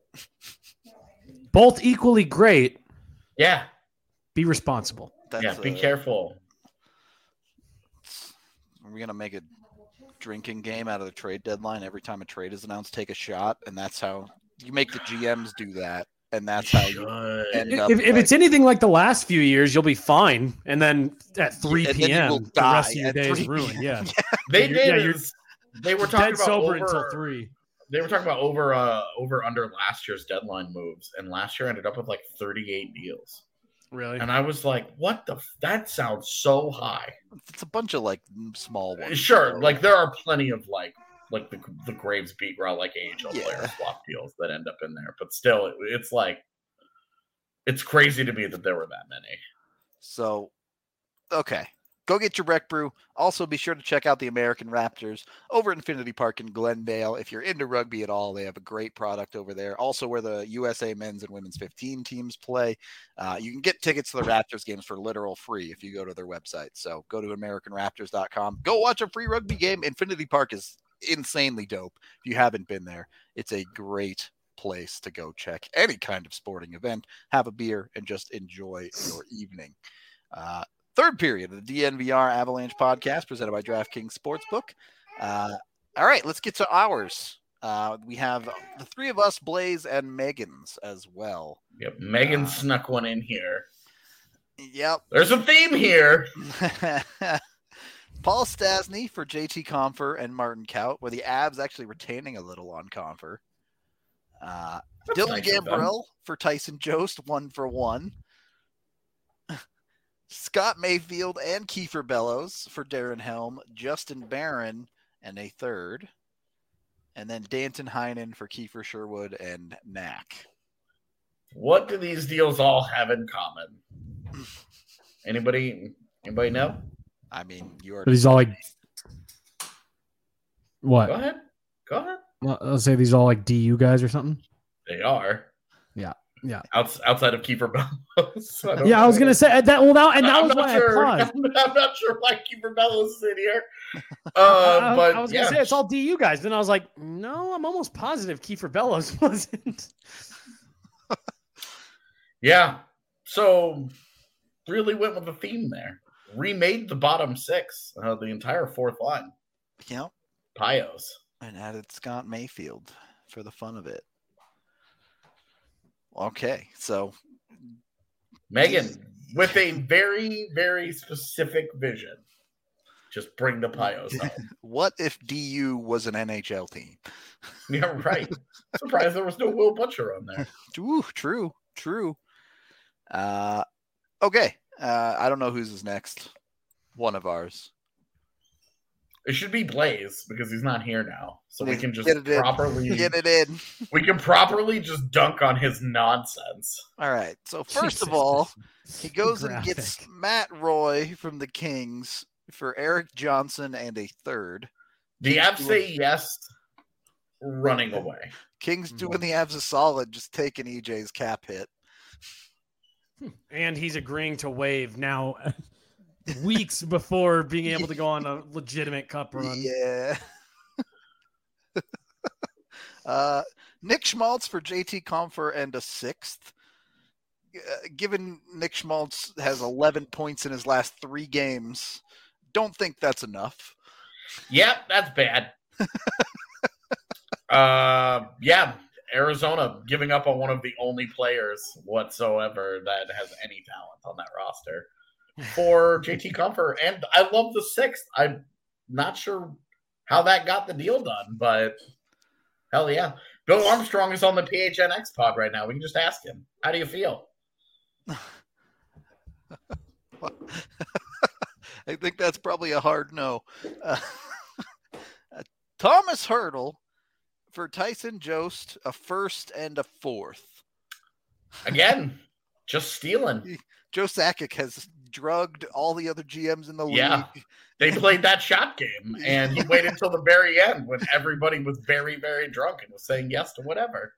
Both equally great. Yeah. Be responsible. That's, yeah. Be uh, careful. Are we gonna make a drinking game out of the trade deadline? Every time a trade is announced, take a shot, and that's how you make the G Ms do that, and that's how you Should. end If, up. if it's like- anything like the last few years, you'll be fine. And then at three And then you p.m., will the die rest of your at day is 3 ruined. Yeah. They You're- did. yeah, you're is- they were talking Dead about sober over, until three. They were talking about over uh over under last year's deadline moves, and last year ended up with like thirty-eight deals. Really? And I was like, "What the? F- that sounds so high." It's a bunch of like small ones. Sure, so- like there are plenty of like like the the Graves beat route like A H L Yeah. player swap deals that end up in there, but still, it, it's like it's crazy to me that there were that many. So, okay. Go get your Breck Brew. Also, be sure to check out the American Raptors over at Infinity Park in Glendale. If you're into rugby at all, they have a great product over there. Also, where the U S A men's and women's fifteen teams play. Uh, you can get tickets to the Raptors games for literal free if you go to their website. So go to American Raptors dot com. Go watch a free rugby game. Infinity Park is insanely dope. If you haven't been there, it's a great place to go check any kind of sporting event, have a beer, and just enjoy your evening. Uh, Third period of the D N V R Avalanche podcast presented by DraftKings Sportsbook. Uh, all right, let's get to ours. Uh, we have the three of us, Blaze and Megan's as well. Yep, Megan Uh, snuck one in here. Yep. There's a theme here. Paul Stasny for J T Confer and Martin Kaut, where the Avs actually retaining a little on Confer. Uh, That's Dylan nice of them. Gambrell for Tyson Jost, one for one. Scott Mayfield and Kiefer Bellows for Darren Helm, Justin Barron, and a third. And then Danton Heinen for Kiefer Sherwood and Knack. What do these deals all have in common? Anybody? Anybody know? I mean, you are. Are these all like what? Go ahead. Go ahead. Well, I'll say these all like D U guys or something. They are. Yeah. Yeah. Outs, outside of Kiefer Bellows. I don't Yeah, I was know. gonna say that. Well, that and that I'm was not why sure. I paused. I'm, I'm not sure why Kiefer Bellows is in here. I, Uh, I- but I was yeah. gonna say it's all D U guys. Then I was like, no, I'm almost positive Kiefer Bellows wasn't. Yeah. So really went with the theme there. Remade the bottom six, uh, the entire fourth line. Yep. Pios. And added Scott Mayfield for the fun of it. Okay, so Megan, with a very, very specific vision. Just bring the Pios home. what if D U was an N H L team? Yeah, right. Surprised there was no Will Butcher on there. Ooh, true, true. Uh, okay. Uh, I don't know whose is next. One of ours. It should be Blaze because he's not here now. So we can just Get it in. properly Get it in. we can properly just dunk on his nonsense. All right. So first of Jesus. all, he goes and Graphic. gets Matt Roy from the Kings for Eric Johnson and a third. The Avs say yes, running away. Kings doing the Avs a solid, just taking E J's cap hit. And he's agreeing to waive now. weeks before being able to go on a legitimate cup run. Yeah. uh, Nick Schmaltz for J T Compher and a sixth. Uh, given Nick Schmaltz has eleven points in his last three games, don't think that's enough. Yep, that's bad. uh, yeah, Arizona giving up on one of the only players whatsoever that has any talent on that roster for J T Compher. And I love the sixth. I'm not sure how that got the deal done, but hell yeah. Bill Armstrong is on the P H N X pod right now. We can just ask him. How do you feel? I think that's probably a hard no. Uh, Thomas Hertel for Tyson Jost, a first and a fourth. Again, just stealing. Joe Sakic has drugged all the other G Ms in the Yeah. league. They played that shot game, and he waited until the very end when everybody was very, very drunk and was saying yes to whatever.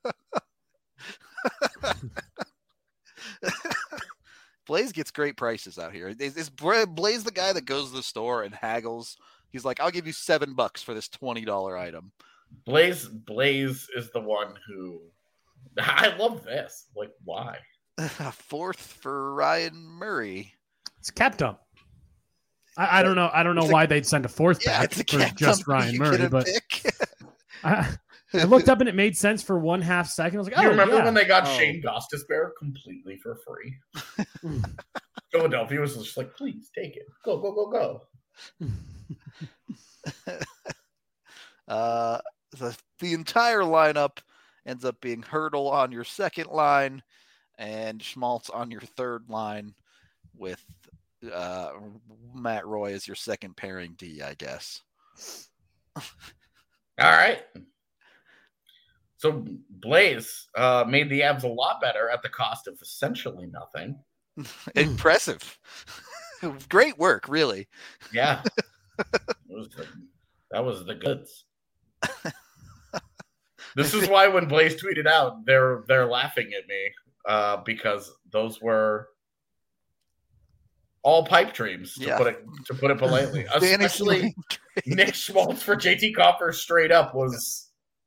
Blaze gets great prices out here. Is, is Blaze the guy that goes to the store and haggles? He's like, I'll give you seven bucks for this twenty dollar item. Blaze Blaze is the one who I love this. Like, why? Fourth for Ryan Murray. It's cap dump. I, I don't know. I don't know It's a- why they'd send a fourth Yeah, back it's a for cap just dump Ryan you Murray, get a but pick. I, I looked up and it made sense for one half second. I was like, Do oh, you remember yeah. when they got Oh. Shane Gostisbehere completely for free? Philadelphia was just like, please take it. Go, go, go, go. Uh, the, the entire lineup ends up being Hertel on your second line and Schmaltz on your third line with uh, Matt Roy as your second pairing D, I guess. All right. So Blaze uh, made the Avs a lot better at the cost of essentially nothing. Impressive. Great work, really. Yeah. It was the, that was the goods. This is why when Blaze tweeted out, they're they're laughing at me uh, because those were all pipe dreams, to Yeah. put it to put it politely. Danny Especially Swing trade. Nick Schmaltz for J T Compher straight up was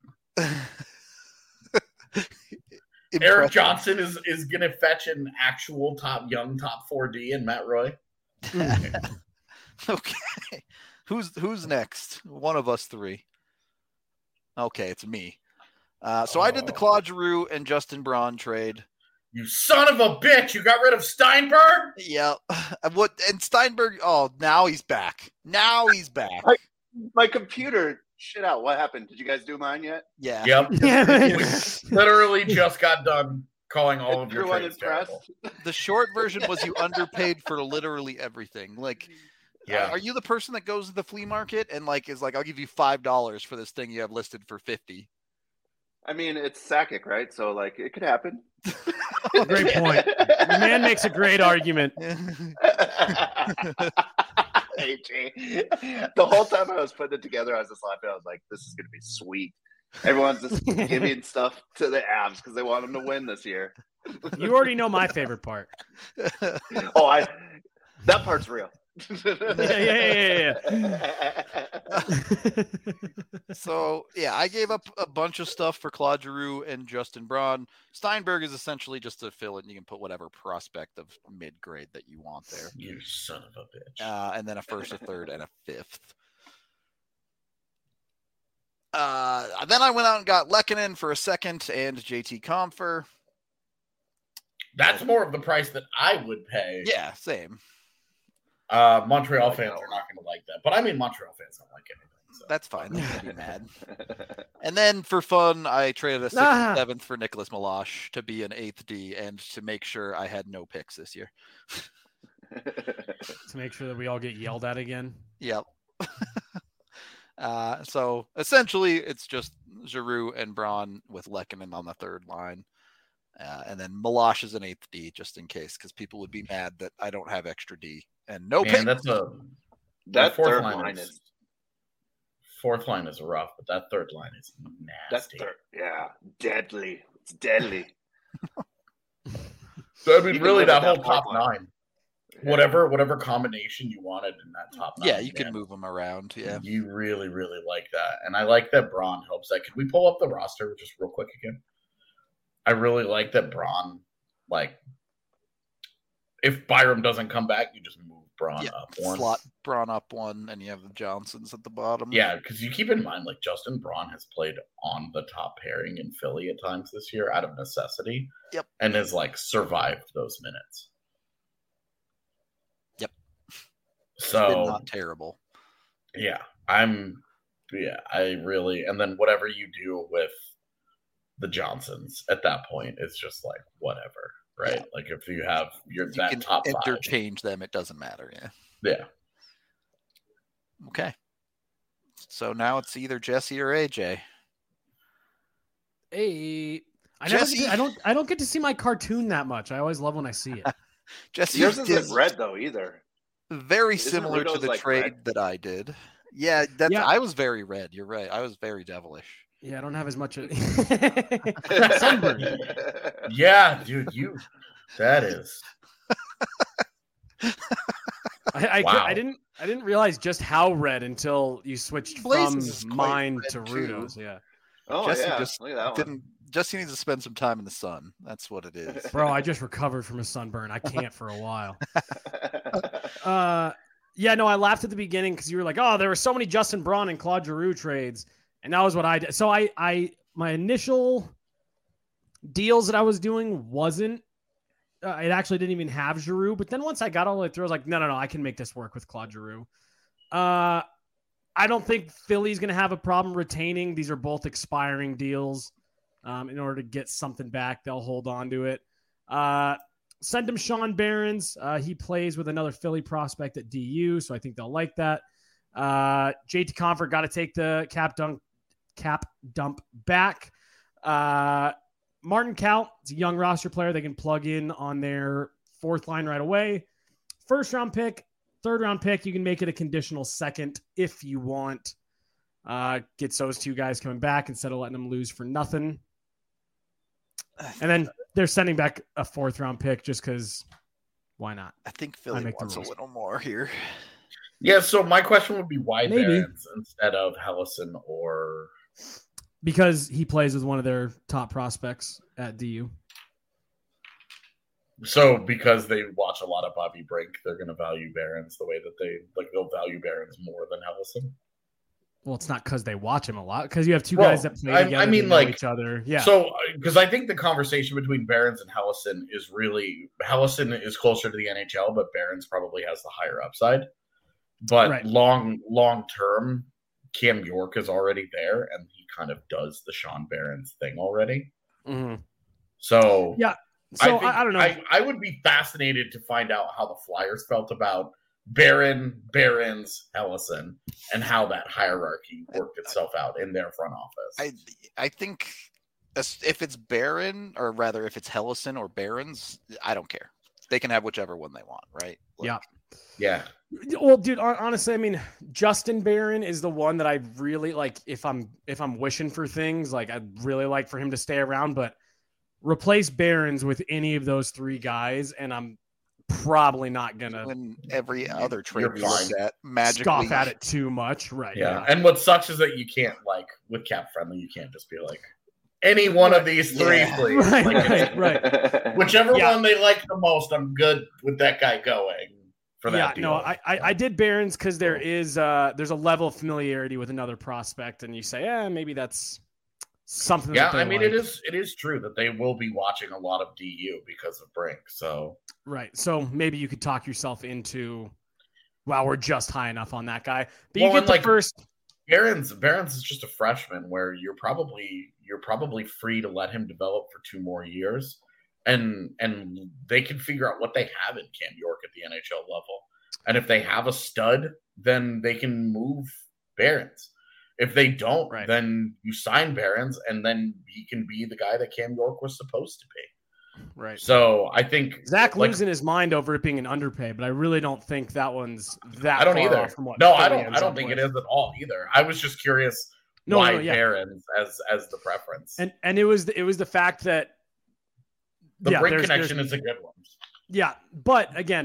Eric Impressive. Johnson is is gonna fetch an actual top young top four D in Matt Roy. Okay. Who's who's next? One of us three. Okay, it's me. Uh, so I did the Oh. Claude Giroux and Justin Braun trade. You son of a bitch! You got rid of Steinberg. Yeah. What and Steinberg? Oh, now he's back. Now he's back. My computer shit out. What happened? Did you guys do mine yet? Yeah. Yep. Yeah. We literally just got done calling all of your Everyone trades impressed? terrible. The short version was you underpaid for literally everything. Like, Yeah. are you the person that goes to the flea market and like is like, I'll give you five dollars for this thing you have listed for fifty? I mean, it's Sakic, right? So, like, it could happen. Great point. The man makes a great argument. Hey, Jay. The whole time I was putting it together, I was just laughing. I was like, this is going to be sweet. Everyone's just giving stuff to the Avs because they want them to win this year. You already know my favorite part. Oh, I that part's real. Yeah, yeah, yeah, yeah. So yeah, I gave up a bunch of stuff for Claude Giroux and Justin Braun. Steinberg is essentially just a fill in. You can put whatever prospect of mid grade that you want there. You son of a bitch. Uh, and then a first, a third, and a fifth. Uh, then I went out and got Lehkonen for a second and J T Compher. That's more of the price that I would pay. Yeah, same. Uh, Montreal Like fans that are not going to like that, but I mean, Montreal fans don't like anything. So. That's fine. They can be mad. And then for fun, I traded a sixth Ah. and seventh for Nicholas Milosh to be an eighth D and to make sure I had no picks this year. To make sure that we all get yelled at again. Yep. uh, so essentially, it's just Giroux and Braun with Lehkonen on the third line. Uh, and then Milosh is an eighth D just in case, because people would be mad that I don't have extra D and no Man, pick. that's a That fourth third line line is, is fourth line is rough, but that third line is that's nasty. third, yeah, deadly. It's deadly. So I mean, Even really, with that that whole top fourth line. nine. whatever whatever combination you wanted in that top nine. Yeah, you can man. move them around. Yeah, You really, really like that. And I like that Braun helps that. Can we pull up the roster just real quick again? I really like that Braun, like, if Byram doesn't come back, you just move Braun yeah. up one. Slot Braun up one, and you have the Johnsons at the bottom. Yeah, because you keep in mind, like, Justin Braun has played on the top pairing in Philly at times this year out of necessity. Yep. And has, like, survived those minutes. Yep. So, It's been not terrible. yeah, I'm, yeah, I really, and then whatever you do with the Johnsons at that point, it's just like, whatever, right? Yeah. Like, if you have your You that can top five. interchange them. It doesn't matter. Yeah. Yeah. Okay. So now it's either Jesse or A J. Hey, I never. Jesse. Get to- I don't. I don't get to see my cartoon that much. I always love when I see it. Jesse Yours did isn't red though either. very Isn't similar to Rudo's, the like, trade red? that I did. Yeah, that's Yeah. I was very red. You're right. I was very devilish. Yeah, I don't have as much. Of... Sunburn. Yeah, dude, you, that is. I, I, Wow. I didn't. I didn't realize just how red until you switched Blazes is from quite mine red, to too. Rudo's. Yeah, Oh Jesse yeah, just look at that one. Didn't Jesse needs to spend some time in the sun. That's what it is. bro, I just recovered from a sunburn. I can't for a while. Uh, yeah, no, I laughed at the beginning because you were like, "Oh, there were so many Justin Braun and Claude Giroux trades," and that was what I did. So I, I, my initial deals that I was doing wasn't. Uh, it actually didn't even have Giroux, but then once I got all the way through, I was like, "No, no, no, I can make this work with Claude Giroux." Uh, I don't think Philly's going to have a problem retaining. These are both expiring deals. Um, in order to get something back, they'll hold on to it. Uh, send him Sean Barons. Uh, he plays with another Philly prospect at D U, so I think they'll like that. Uh, J T Comfort got to take the cap dunk, cap dump back. Uh, Martin Kaut, it's a young roster player they can plug in on their fourth line right away. First round pick, third round pick, you can make it a conditional second if you want. Uh, gets those two guys coming back instead of letting them lose for nothing. And then they're sending back a fourth round pick just because why not? I think Philly make the wants a rules. little more here. Yeah, so my question would be why Maybe. Barons instead of Hellison or Because he plays with one of their top prospects at D U. so because they watch a lot of Bobby Brink, they're going to value Barons the way that they like. They'll value Barons more than Hellison. Well, it's not because they watch him a lot. Because you have two Well, guys that play I- I together. mean, they know like, each other. Yeah. So because I think the conversation between Barons and Hellison is really Hellison is closer to the N H L, but Barons probably has the higher upside. But Right. long long term, Cam York is already there, and he kind of does the Sean Barons thing already. Mhm. So Yeah. So I, think, I, I don't know. I, I would be fascinated to find out how the Flyers felt about Barron, Barons, Hellison, and how that hierarchy worked itself out in their front office. I I think as- if it's Barron, or rather if it's Hellison or Barons, I don't care. They can have whichever one they want, right? Like, Yeah. yeah. Well, dude, hon- honestly, I mean, Justin Barron is the one that I really like. If I'm if I'm wishing for things, like I'd really like for him to stay around, but replace Barons with any of those three guys, and I'm probably not gonna When every other trade You're we look fine. at magically scoff at it too much, right? Yeah. And what sucks is that you can't, like, with Cap Friendly, you can't just be like, any one of these three, Yeah. please. Right, Like, right, right. Whichever Yeah. one they like the most, I'm good with that guy going for Yeah, that deal. no, I, I I did Barons because there is uh there's a level of familiarity with another prospect, and you say, yeah, maybe that's something. yeah, that they I mean, like. it is it is true that they will be watching a lot of D U because of Brink. So Right. So maybe you could talk yourself into, wow, we're just high enough on that guy. But you Well, get and, the like, first. Barons Barons is just a freshman where you're probably you're probably free to let him develop for two more years, and and they can figure out what they have in Cam York at the N H L level, and if they have a stud, then they can move Barons. If they don't, Right. then you sign Barons, and then he can be the guy that Cam York was supposed to be. Right. So I think Zach like, losing his mind over it being an underpay, but I really don't think that one's that. I don't far either. off From what No, I Philly don't. ends I don't up think with. it is at all either. I was just curious No, why no, yeah. Barons as as the preference. And and it was the, it was the fact that the yeah, Brink there's- connection there's- is a good one. yeah, but again,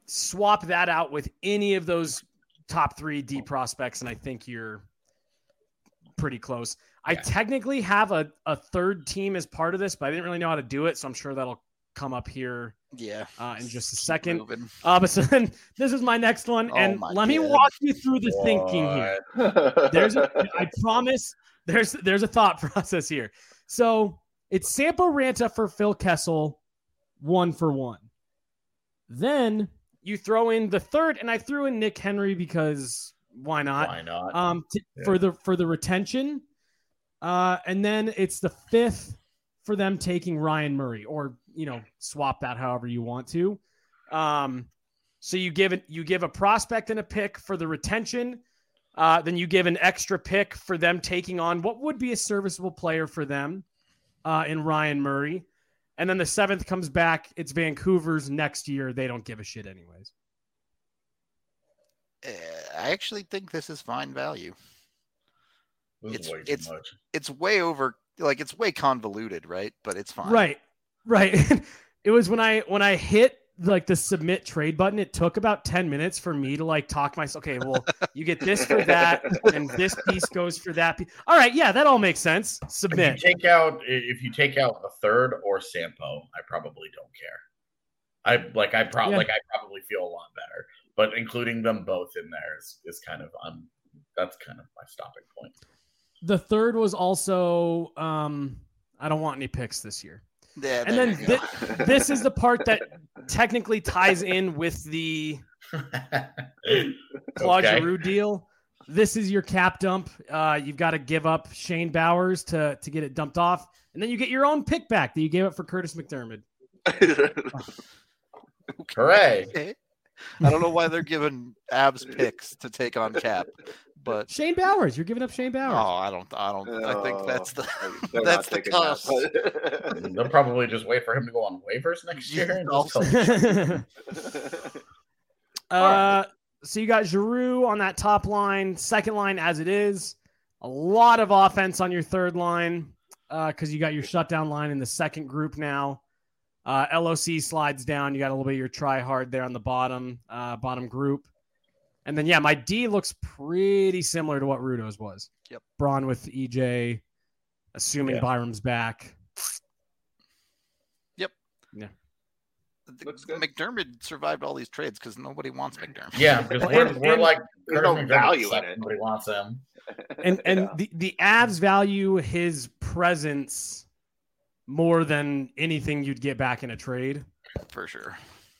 swap that out with any of those top three D prospects, and I think you're pretty close. I Yeah. technically have a, a third team as part of this, but I didn't really know how to do it, so I'm sure that'll come up here Yeah. uh, in just a Keep second. moving. Uh, but so then this is my next one, Oh and my let me God. walk you through the thinking here. What? There's a, I promise there's there's a thought process here. So it's Sampo Ranta for Phil Kessel, one for one. Then you throw in the third, and I threw in Nick Henry because why not? Why not? Um, t- Yeah. for the for the retention, uh, and then it's the fifth for them taking Ryan Murray, or you know, swap that however you want to. Um, so you give it, you give a prospect and a pick for the retention. Uh, then you give an extra pick for them taking on what would be a serviceable player for them uh, in Ryan Murray. And then the seventh comes back. It's Vancouver's next year. They don't give a shit anyways. Uh, I actually think this is fine value. This is it's- way too it's- much. It's way over, like it's way convoluted, right? But it's fine. Right. Right. It was when I when I hit like the submit trade button, it took about ten minutes for me to like talk myself. Okay, well, you get this for that, and this piece goes for that piece. All right, yeah, that all makes sense. If Submit. you take out if you take out the third or Sampo, I probably don't care. I like I probably Yeah. like I probably feel a lot better. But including them both in there is, is kind of um that's kind of my stopping point. The third was also um I don't want any picks this year. Yeah, And there then you go. thi- this is the part that technically ties in with the Claude Okay. Giroux deal. This is your cap dump. Uh, you've got to give up Shane Bowers to to get it dumped off, and then you get your own pick back that you gave up for Curtis McDermott. Hooray. Okay. I don't know why they're giving abs picks to take on Cap, but Shane Bowers, you're giving up Shane oh, Bowers. I don't, I don't, I think that's the They're that's not the taking cost. that. They'll probably just wait for him to go on waivers next year. And just Also- uh, so you got Giroux on that top line, second line as it is. A lot of offense on your third line because uh, you got your shutdown line in the second group now. Uh, L O C slides down. You got a little bit of your try hard there on the bottom, uh, bottom group. And then, yeah, my D looks pretty similar to what Rudo's was. Yep. Braun with E J, assuming Yeah. Byram's back. The- Looks good. McDermott survived all these trades because nobody wants McDermott. yeah, because Well, we're, and- we're and- like There's Curtis no McDermott value in sucks, it. Nobody wants him. And and Yeah. the, the Avs value his presence more than anything you'd get back in a trade. for sure.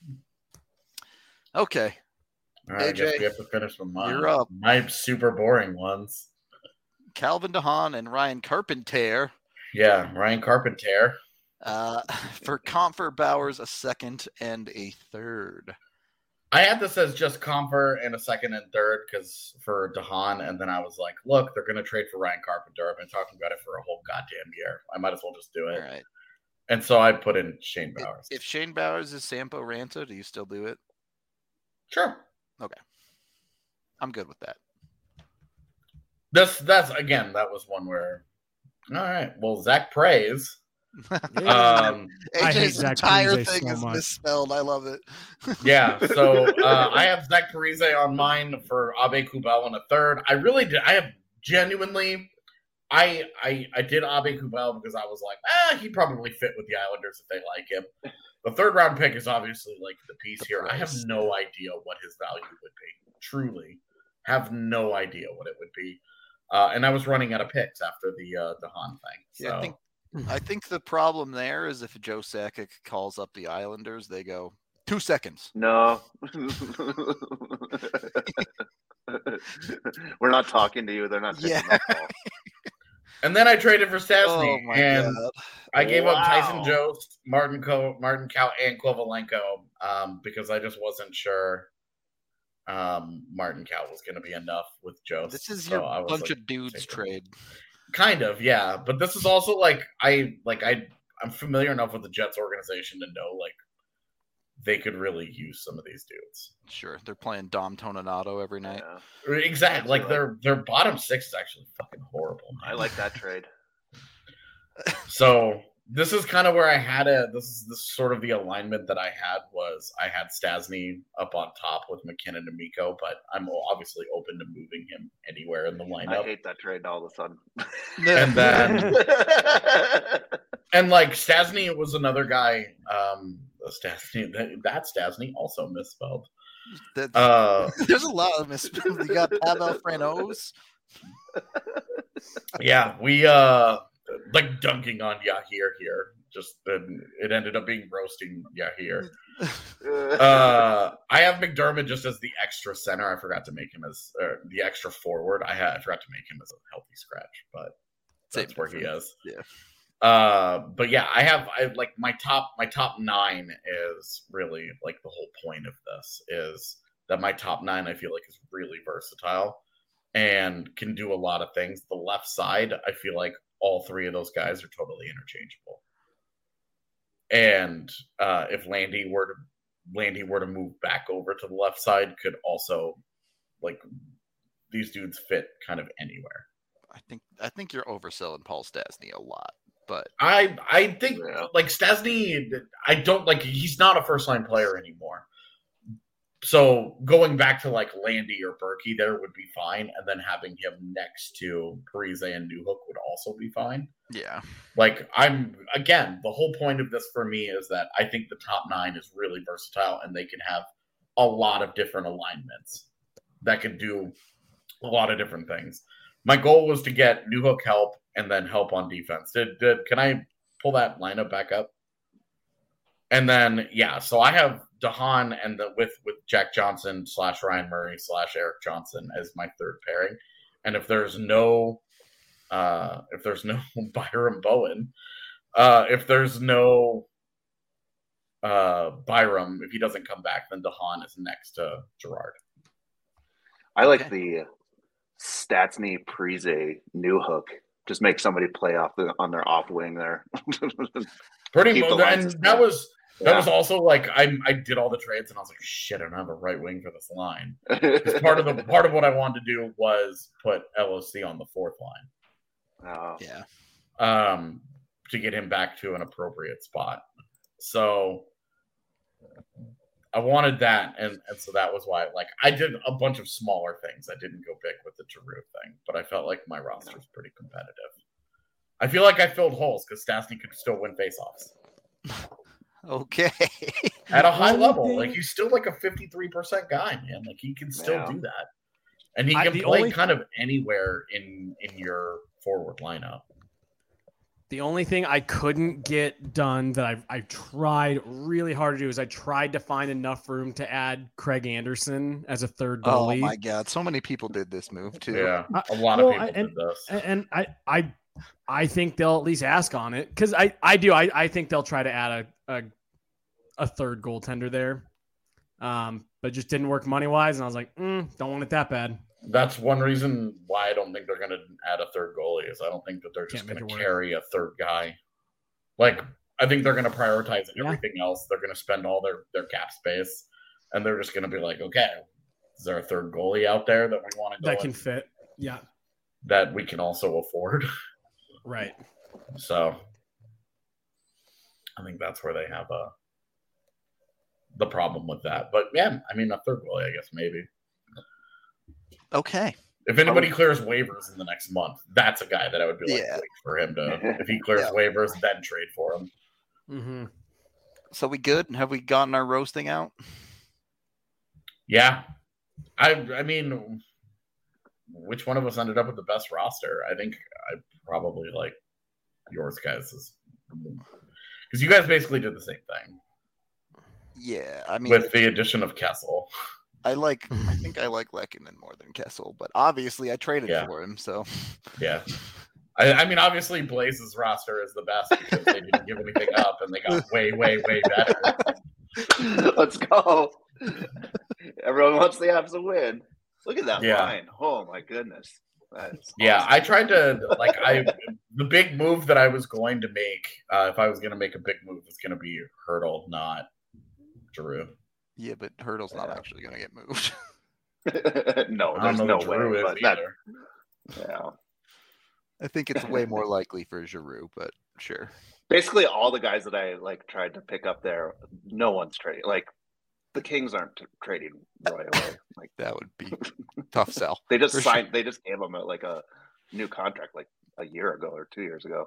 Okay, All right, I guess A J, we have to finish with mine. you're up. My super boring ones. Calvin DeHaan and Ryan Carpenter Yeah, Ryan Carpenter. uh, for Comfer Bowers a second and a third. I had this as just Comfer and a second and third because for DeHaan, and then I was like, look, they're going to trade for Ryan Carpenter. I've been talking about it for a whole goddamn year. I might as well just do All it. right. And so I put in Shane If, Bowers. if Shane Bowers is Sampo Ranta, do you still do it? Sure. I'm good with that. This that's again, that was one where all right. Well, Zach Praise. Um I hate AJ's Zach entire Parise thing so is much. misspelled. I love it. yeah, so uh, I have Zach Parise on mine for Abe Kubel in a third. I really did. I have genuinely, I I I did Abe Kubel because I was like, ah, he probably fit with the Islanders if they like him. The third round pick is obviously like the piece The here. I have price. no idea what his value would be. Truly, have no idea what it would be. Uh, and I was running out of picks after the uh, the Han thing. So Yeah, I think I think the problem there is if Joe Sakic calls up the Islanders, they go two seconds. No. We're not talking to you. They're not taking Yeah. that call. and then I traded for Stastny, Oh my and god! I gave up Tyson Wow. Jost, Martin Co, Martin Cow, and Kovalenko um, because I just wasn't sure um, Martin Cow was going to be enough with Jost. This is So your I was bunch like, of dudes take it. trade. kind of, yeah. But this is also like I like I I'm familiar enough with the Jets organization to know like they could really use some of these dudes. Sure, they're playing Dom Toninato every night. Yeah. Exactly, like Absolutely. their their bottom six is actually fucking horrible. I like that trade. So this is kind of where I had it. This is this sort of the alignment that I had was I had Stasny up on top with McKinnon and Miko, but I'm obviously open to moving him anywhere in the lineup. I hate that trade all of a sudden. And then and like Stasny was another guy. Um, Stasny, that, that Stasny also misspelled. That's, Uh, there's a lot of misspelled. You got Pavel Franos. yeah, we uh like dunking on Yahir here. Just then it ended up being roasting Yahir. Uh, I have McDermott just as the extra center. I forgot to make him as uh, the extra forward. I had I forgot to make him as a healthy scratch, but that's Same where he difference. is. Yeah. Uh, but yeah, I have I like my top my top nine is really like the whole point of this is that my top nine I feel like is really versatile and can do a lot of things. The left side, I feel like all three of those guys are totally interchangeable. And uh, if Landy were to Landy were to move back over to the left side, could also like these dudes fit kind of anywhere. I think I think you're overselling Paul Stasny a lot, but I I think Yeah. like Stasny, I don't like he's not a first line player anymore. So going back to like Landy or Berkey there would be fine, and then having him next to Parise and Newhook would also be fine. yeah, Like I'm again, the whole point of this for me is that I think the top nine is really versatile and they can have a lot of different alignments that can do a lot of different things. My goal was to get Newhook help and then help on defense. Did, did can I pull that lineup back up? And then yeah, so I have DeHaan and the with with Jack Johnson slash Ryan Murray slash Eric Johnson as my third pairing. And if there's no uh if there's no Byram Bowen, uh if there's no uh Byram, if he doesn't come back, then DeHaan is next to Gerard. I like Okay. the Statsny Parise Newhook. Just make somebody play off the, on their off wing there. Pretty Keep the much, lines and that as- was that Yeah. was also like I I did all the trades and I was like, shit, I don't have a right wing for this line. 'Cause part of the part of what I wanted to do was put L O C on the fourth line. Oh, yeah. Um, to get him back to an appropriate spot. So I wanted that, and, and so that was why like I did a bunch of smaller things. I didn't go big with the Giroux thing, but I felt like my roster was pretty competitive. I feel like I filled holes because Stastny could still win faceoffs Okay. at a high Only level. thing- Like he's still like a fifty-three percent guy, man. Like he can still Yeah. do that, and he I- can the play only- kind of anywhere in in your forward lineup. The only thing I couldn't get done that I I tried really hard to do is I tried to find enough room to add Craig Anderson as a third Oh goalie. my God, so many people did this move too. Yeah, I- a lot well, of people I- did and- this. And, and I, I, I think they'll at least ask on it because I, I do. I, I think they'll try to add a, a, a third goaltender there, um, but it just didn't work money wise. And I was like, mm, don't want it that bad. That's one reason why I don't think they're going to add a third goalie. Is I don't think that they're just Can't make going to it work. carry a third guy. Like I think they're going to prioritize Yeah. everything else. They're going to spend all their their cap space, and they're just going to be like, okay, is there a third goalie out there that we want to go That can with fit. Yeah, that we can also afford? right. So I think that's where they have a the problem with that. But yeah, I mean a third goalie, I guess maybe. Okay. If anybody clears waivers in the next month, that's a guy that I would be like, Yeah. wait for him to. If he clears Yeah. waivers, then trade for him. Mm-hmm. So we good? Have we gotten our roasting out? Yeah, I. I mean, which one of us ended up with the best roster? I think I probably like yours guys' because you guys basically did the same thing Yeah, I mean, with the addition of Kessel. I like. I think I like Lehkonen more than Kessel, but obviously I traded Yeah. for him. So Yeah. I, I mean, obviously, Blaze's roster is the best because they didn't give anything up and they got way, way, way better. let's go. Everyone wants the Avs to win. Look at that Yeah. line. Oh my goodness. That's Yeah, awesome. I tried to like I the big move that I was going to make uh, if I was going to make a big move was going to be Hurdle, not Giroux. yeah, but Hurdle's not Yeah. actually going to get moved. no, I don't there's know no that way. Giroux is But that, either. yeah. I think it's way more likely for Giroux, but sure. Basically, all the guys that I like tried to pick up there, no one's trading. Like the Kings aren't t- trading Roy away. Like That would be tough sell. they just For signed. sure. They just gave him a, like a new contract like a year ago or two years ago.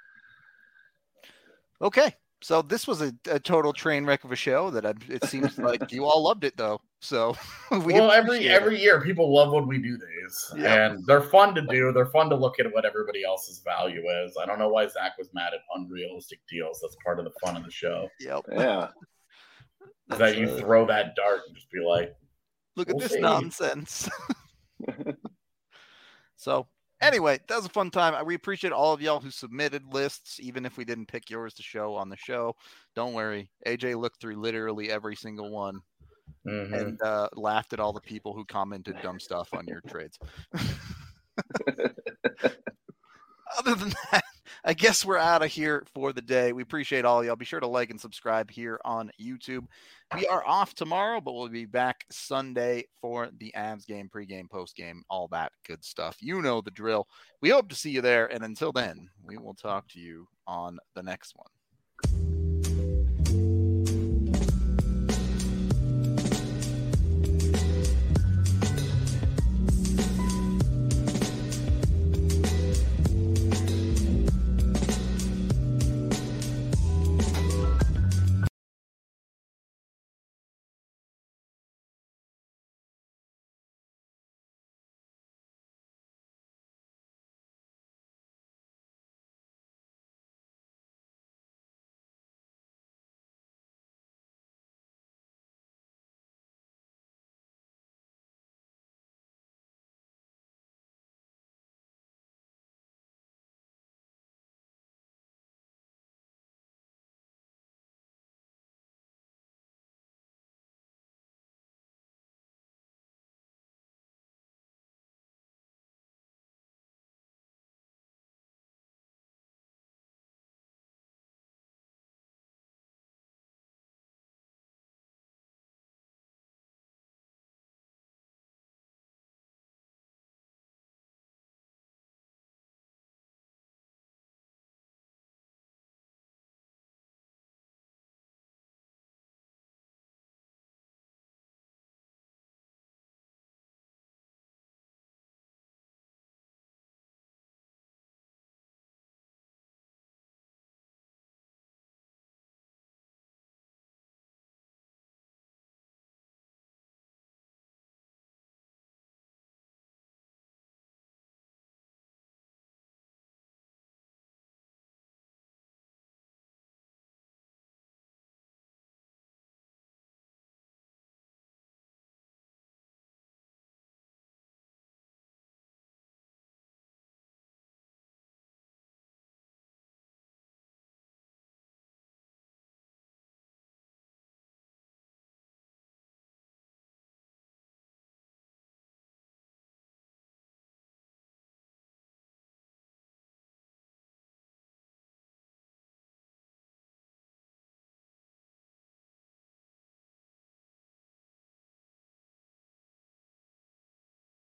Okay, so this was a, a total train wreck of a show. That I, it seems like you all loved it though. So we well, every appreciate every it. year people love when we do these, Yep. and they're fun to do. They're fun to look at what everybody else's value is. I don't know why Zach was mad at unrealistic deals. That's part of the fun of the show. Yep. Yeah. Is that you uh, throw that dart and just be like, Look at We'll this see. nonsense. So anyway, that was a fun time. We appreciate all of y'all who submitted lists, even if we didn't pick yours to show on the show. Don't worry. A J looked through literally every single one mhm. and uh, laughed at all the people who commented dumb stuff on your trades. Other than that, I guess we're out of here for the day. We appreciate all y'all. Be sure to like and subscribe here on YouTube. We are off tomorrow, but we'll be back Sunday for the Avs game, pregame, postgame, all that good stuff. You know the drill. We hope to see you there. And until then, we will talk to you on the next one.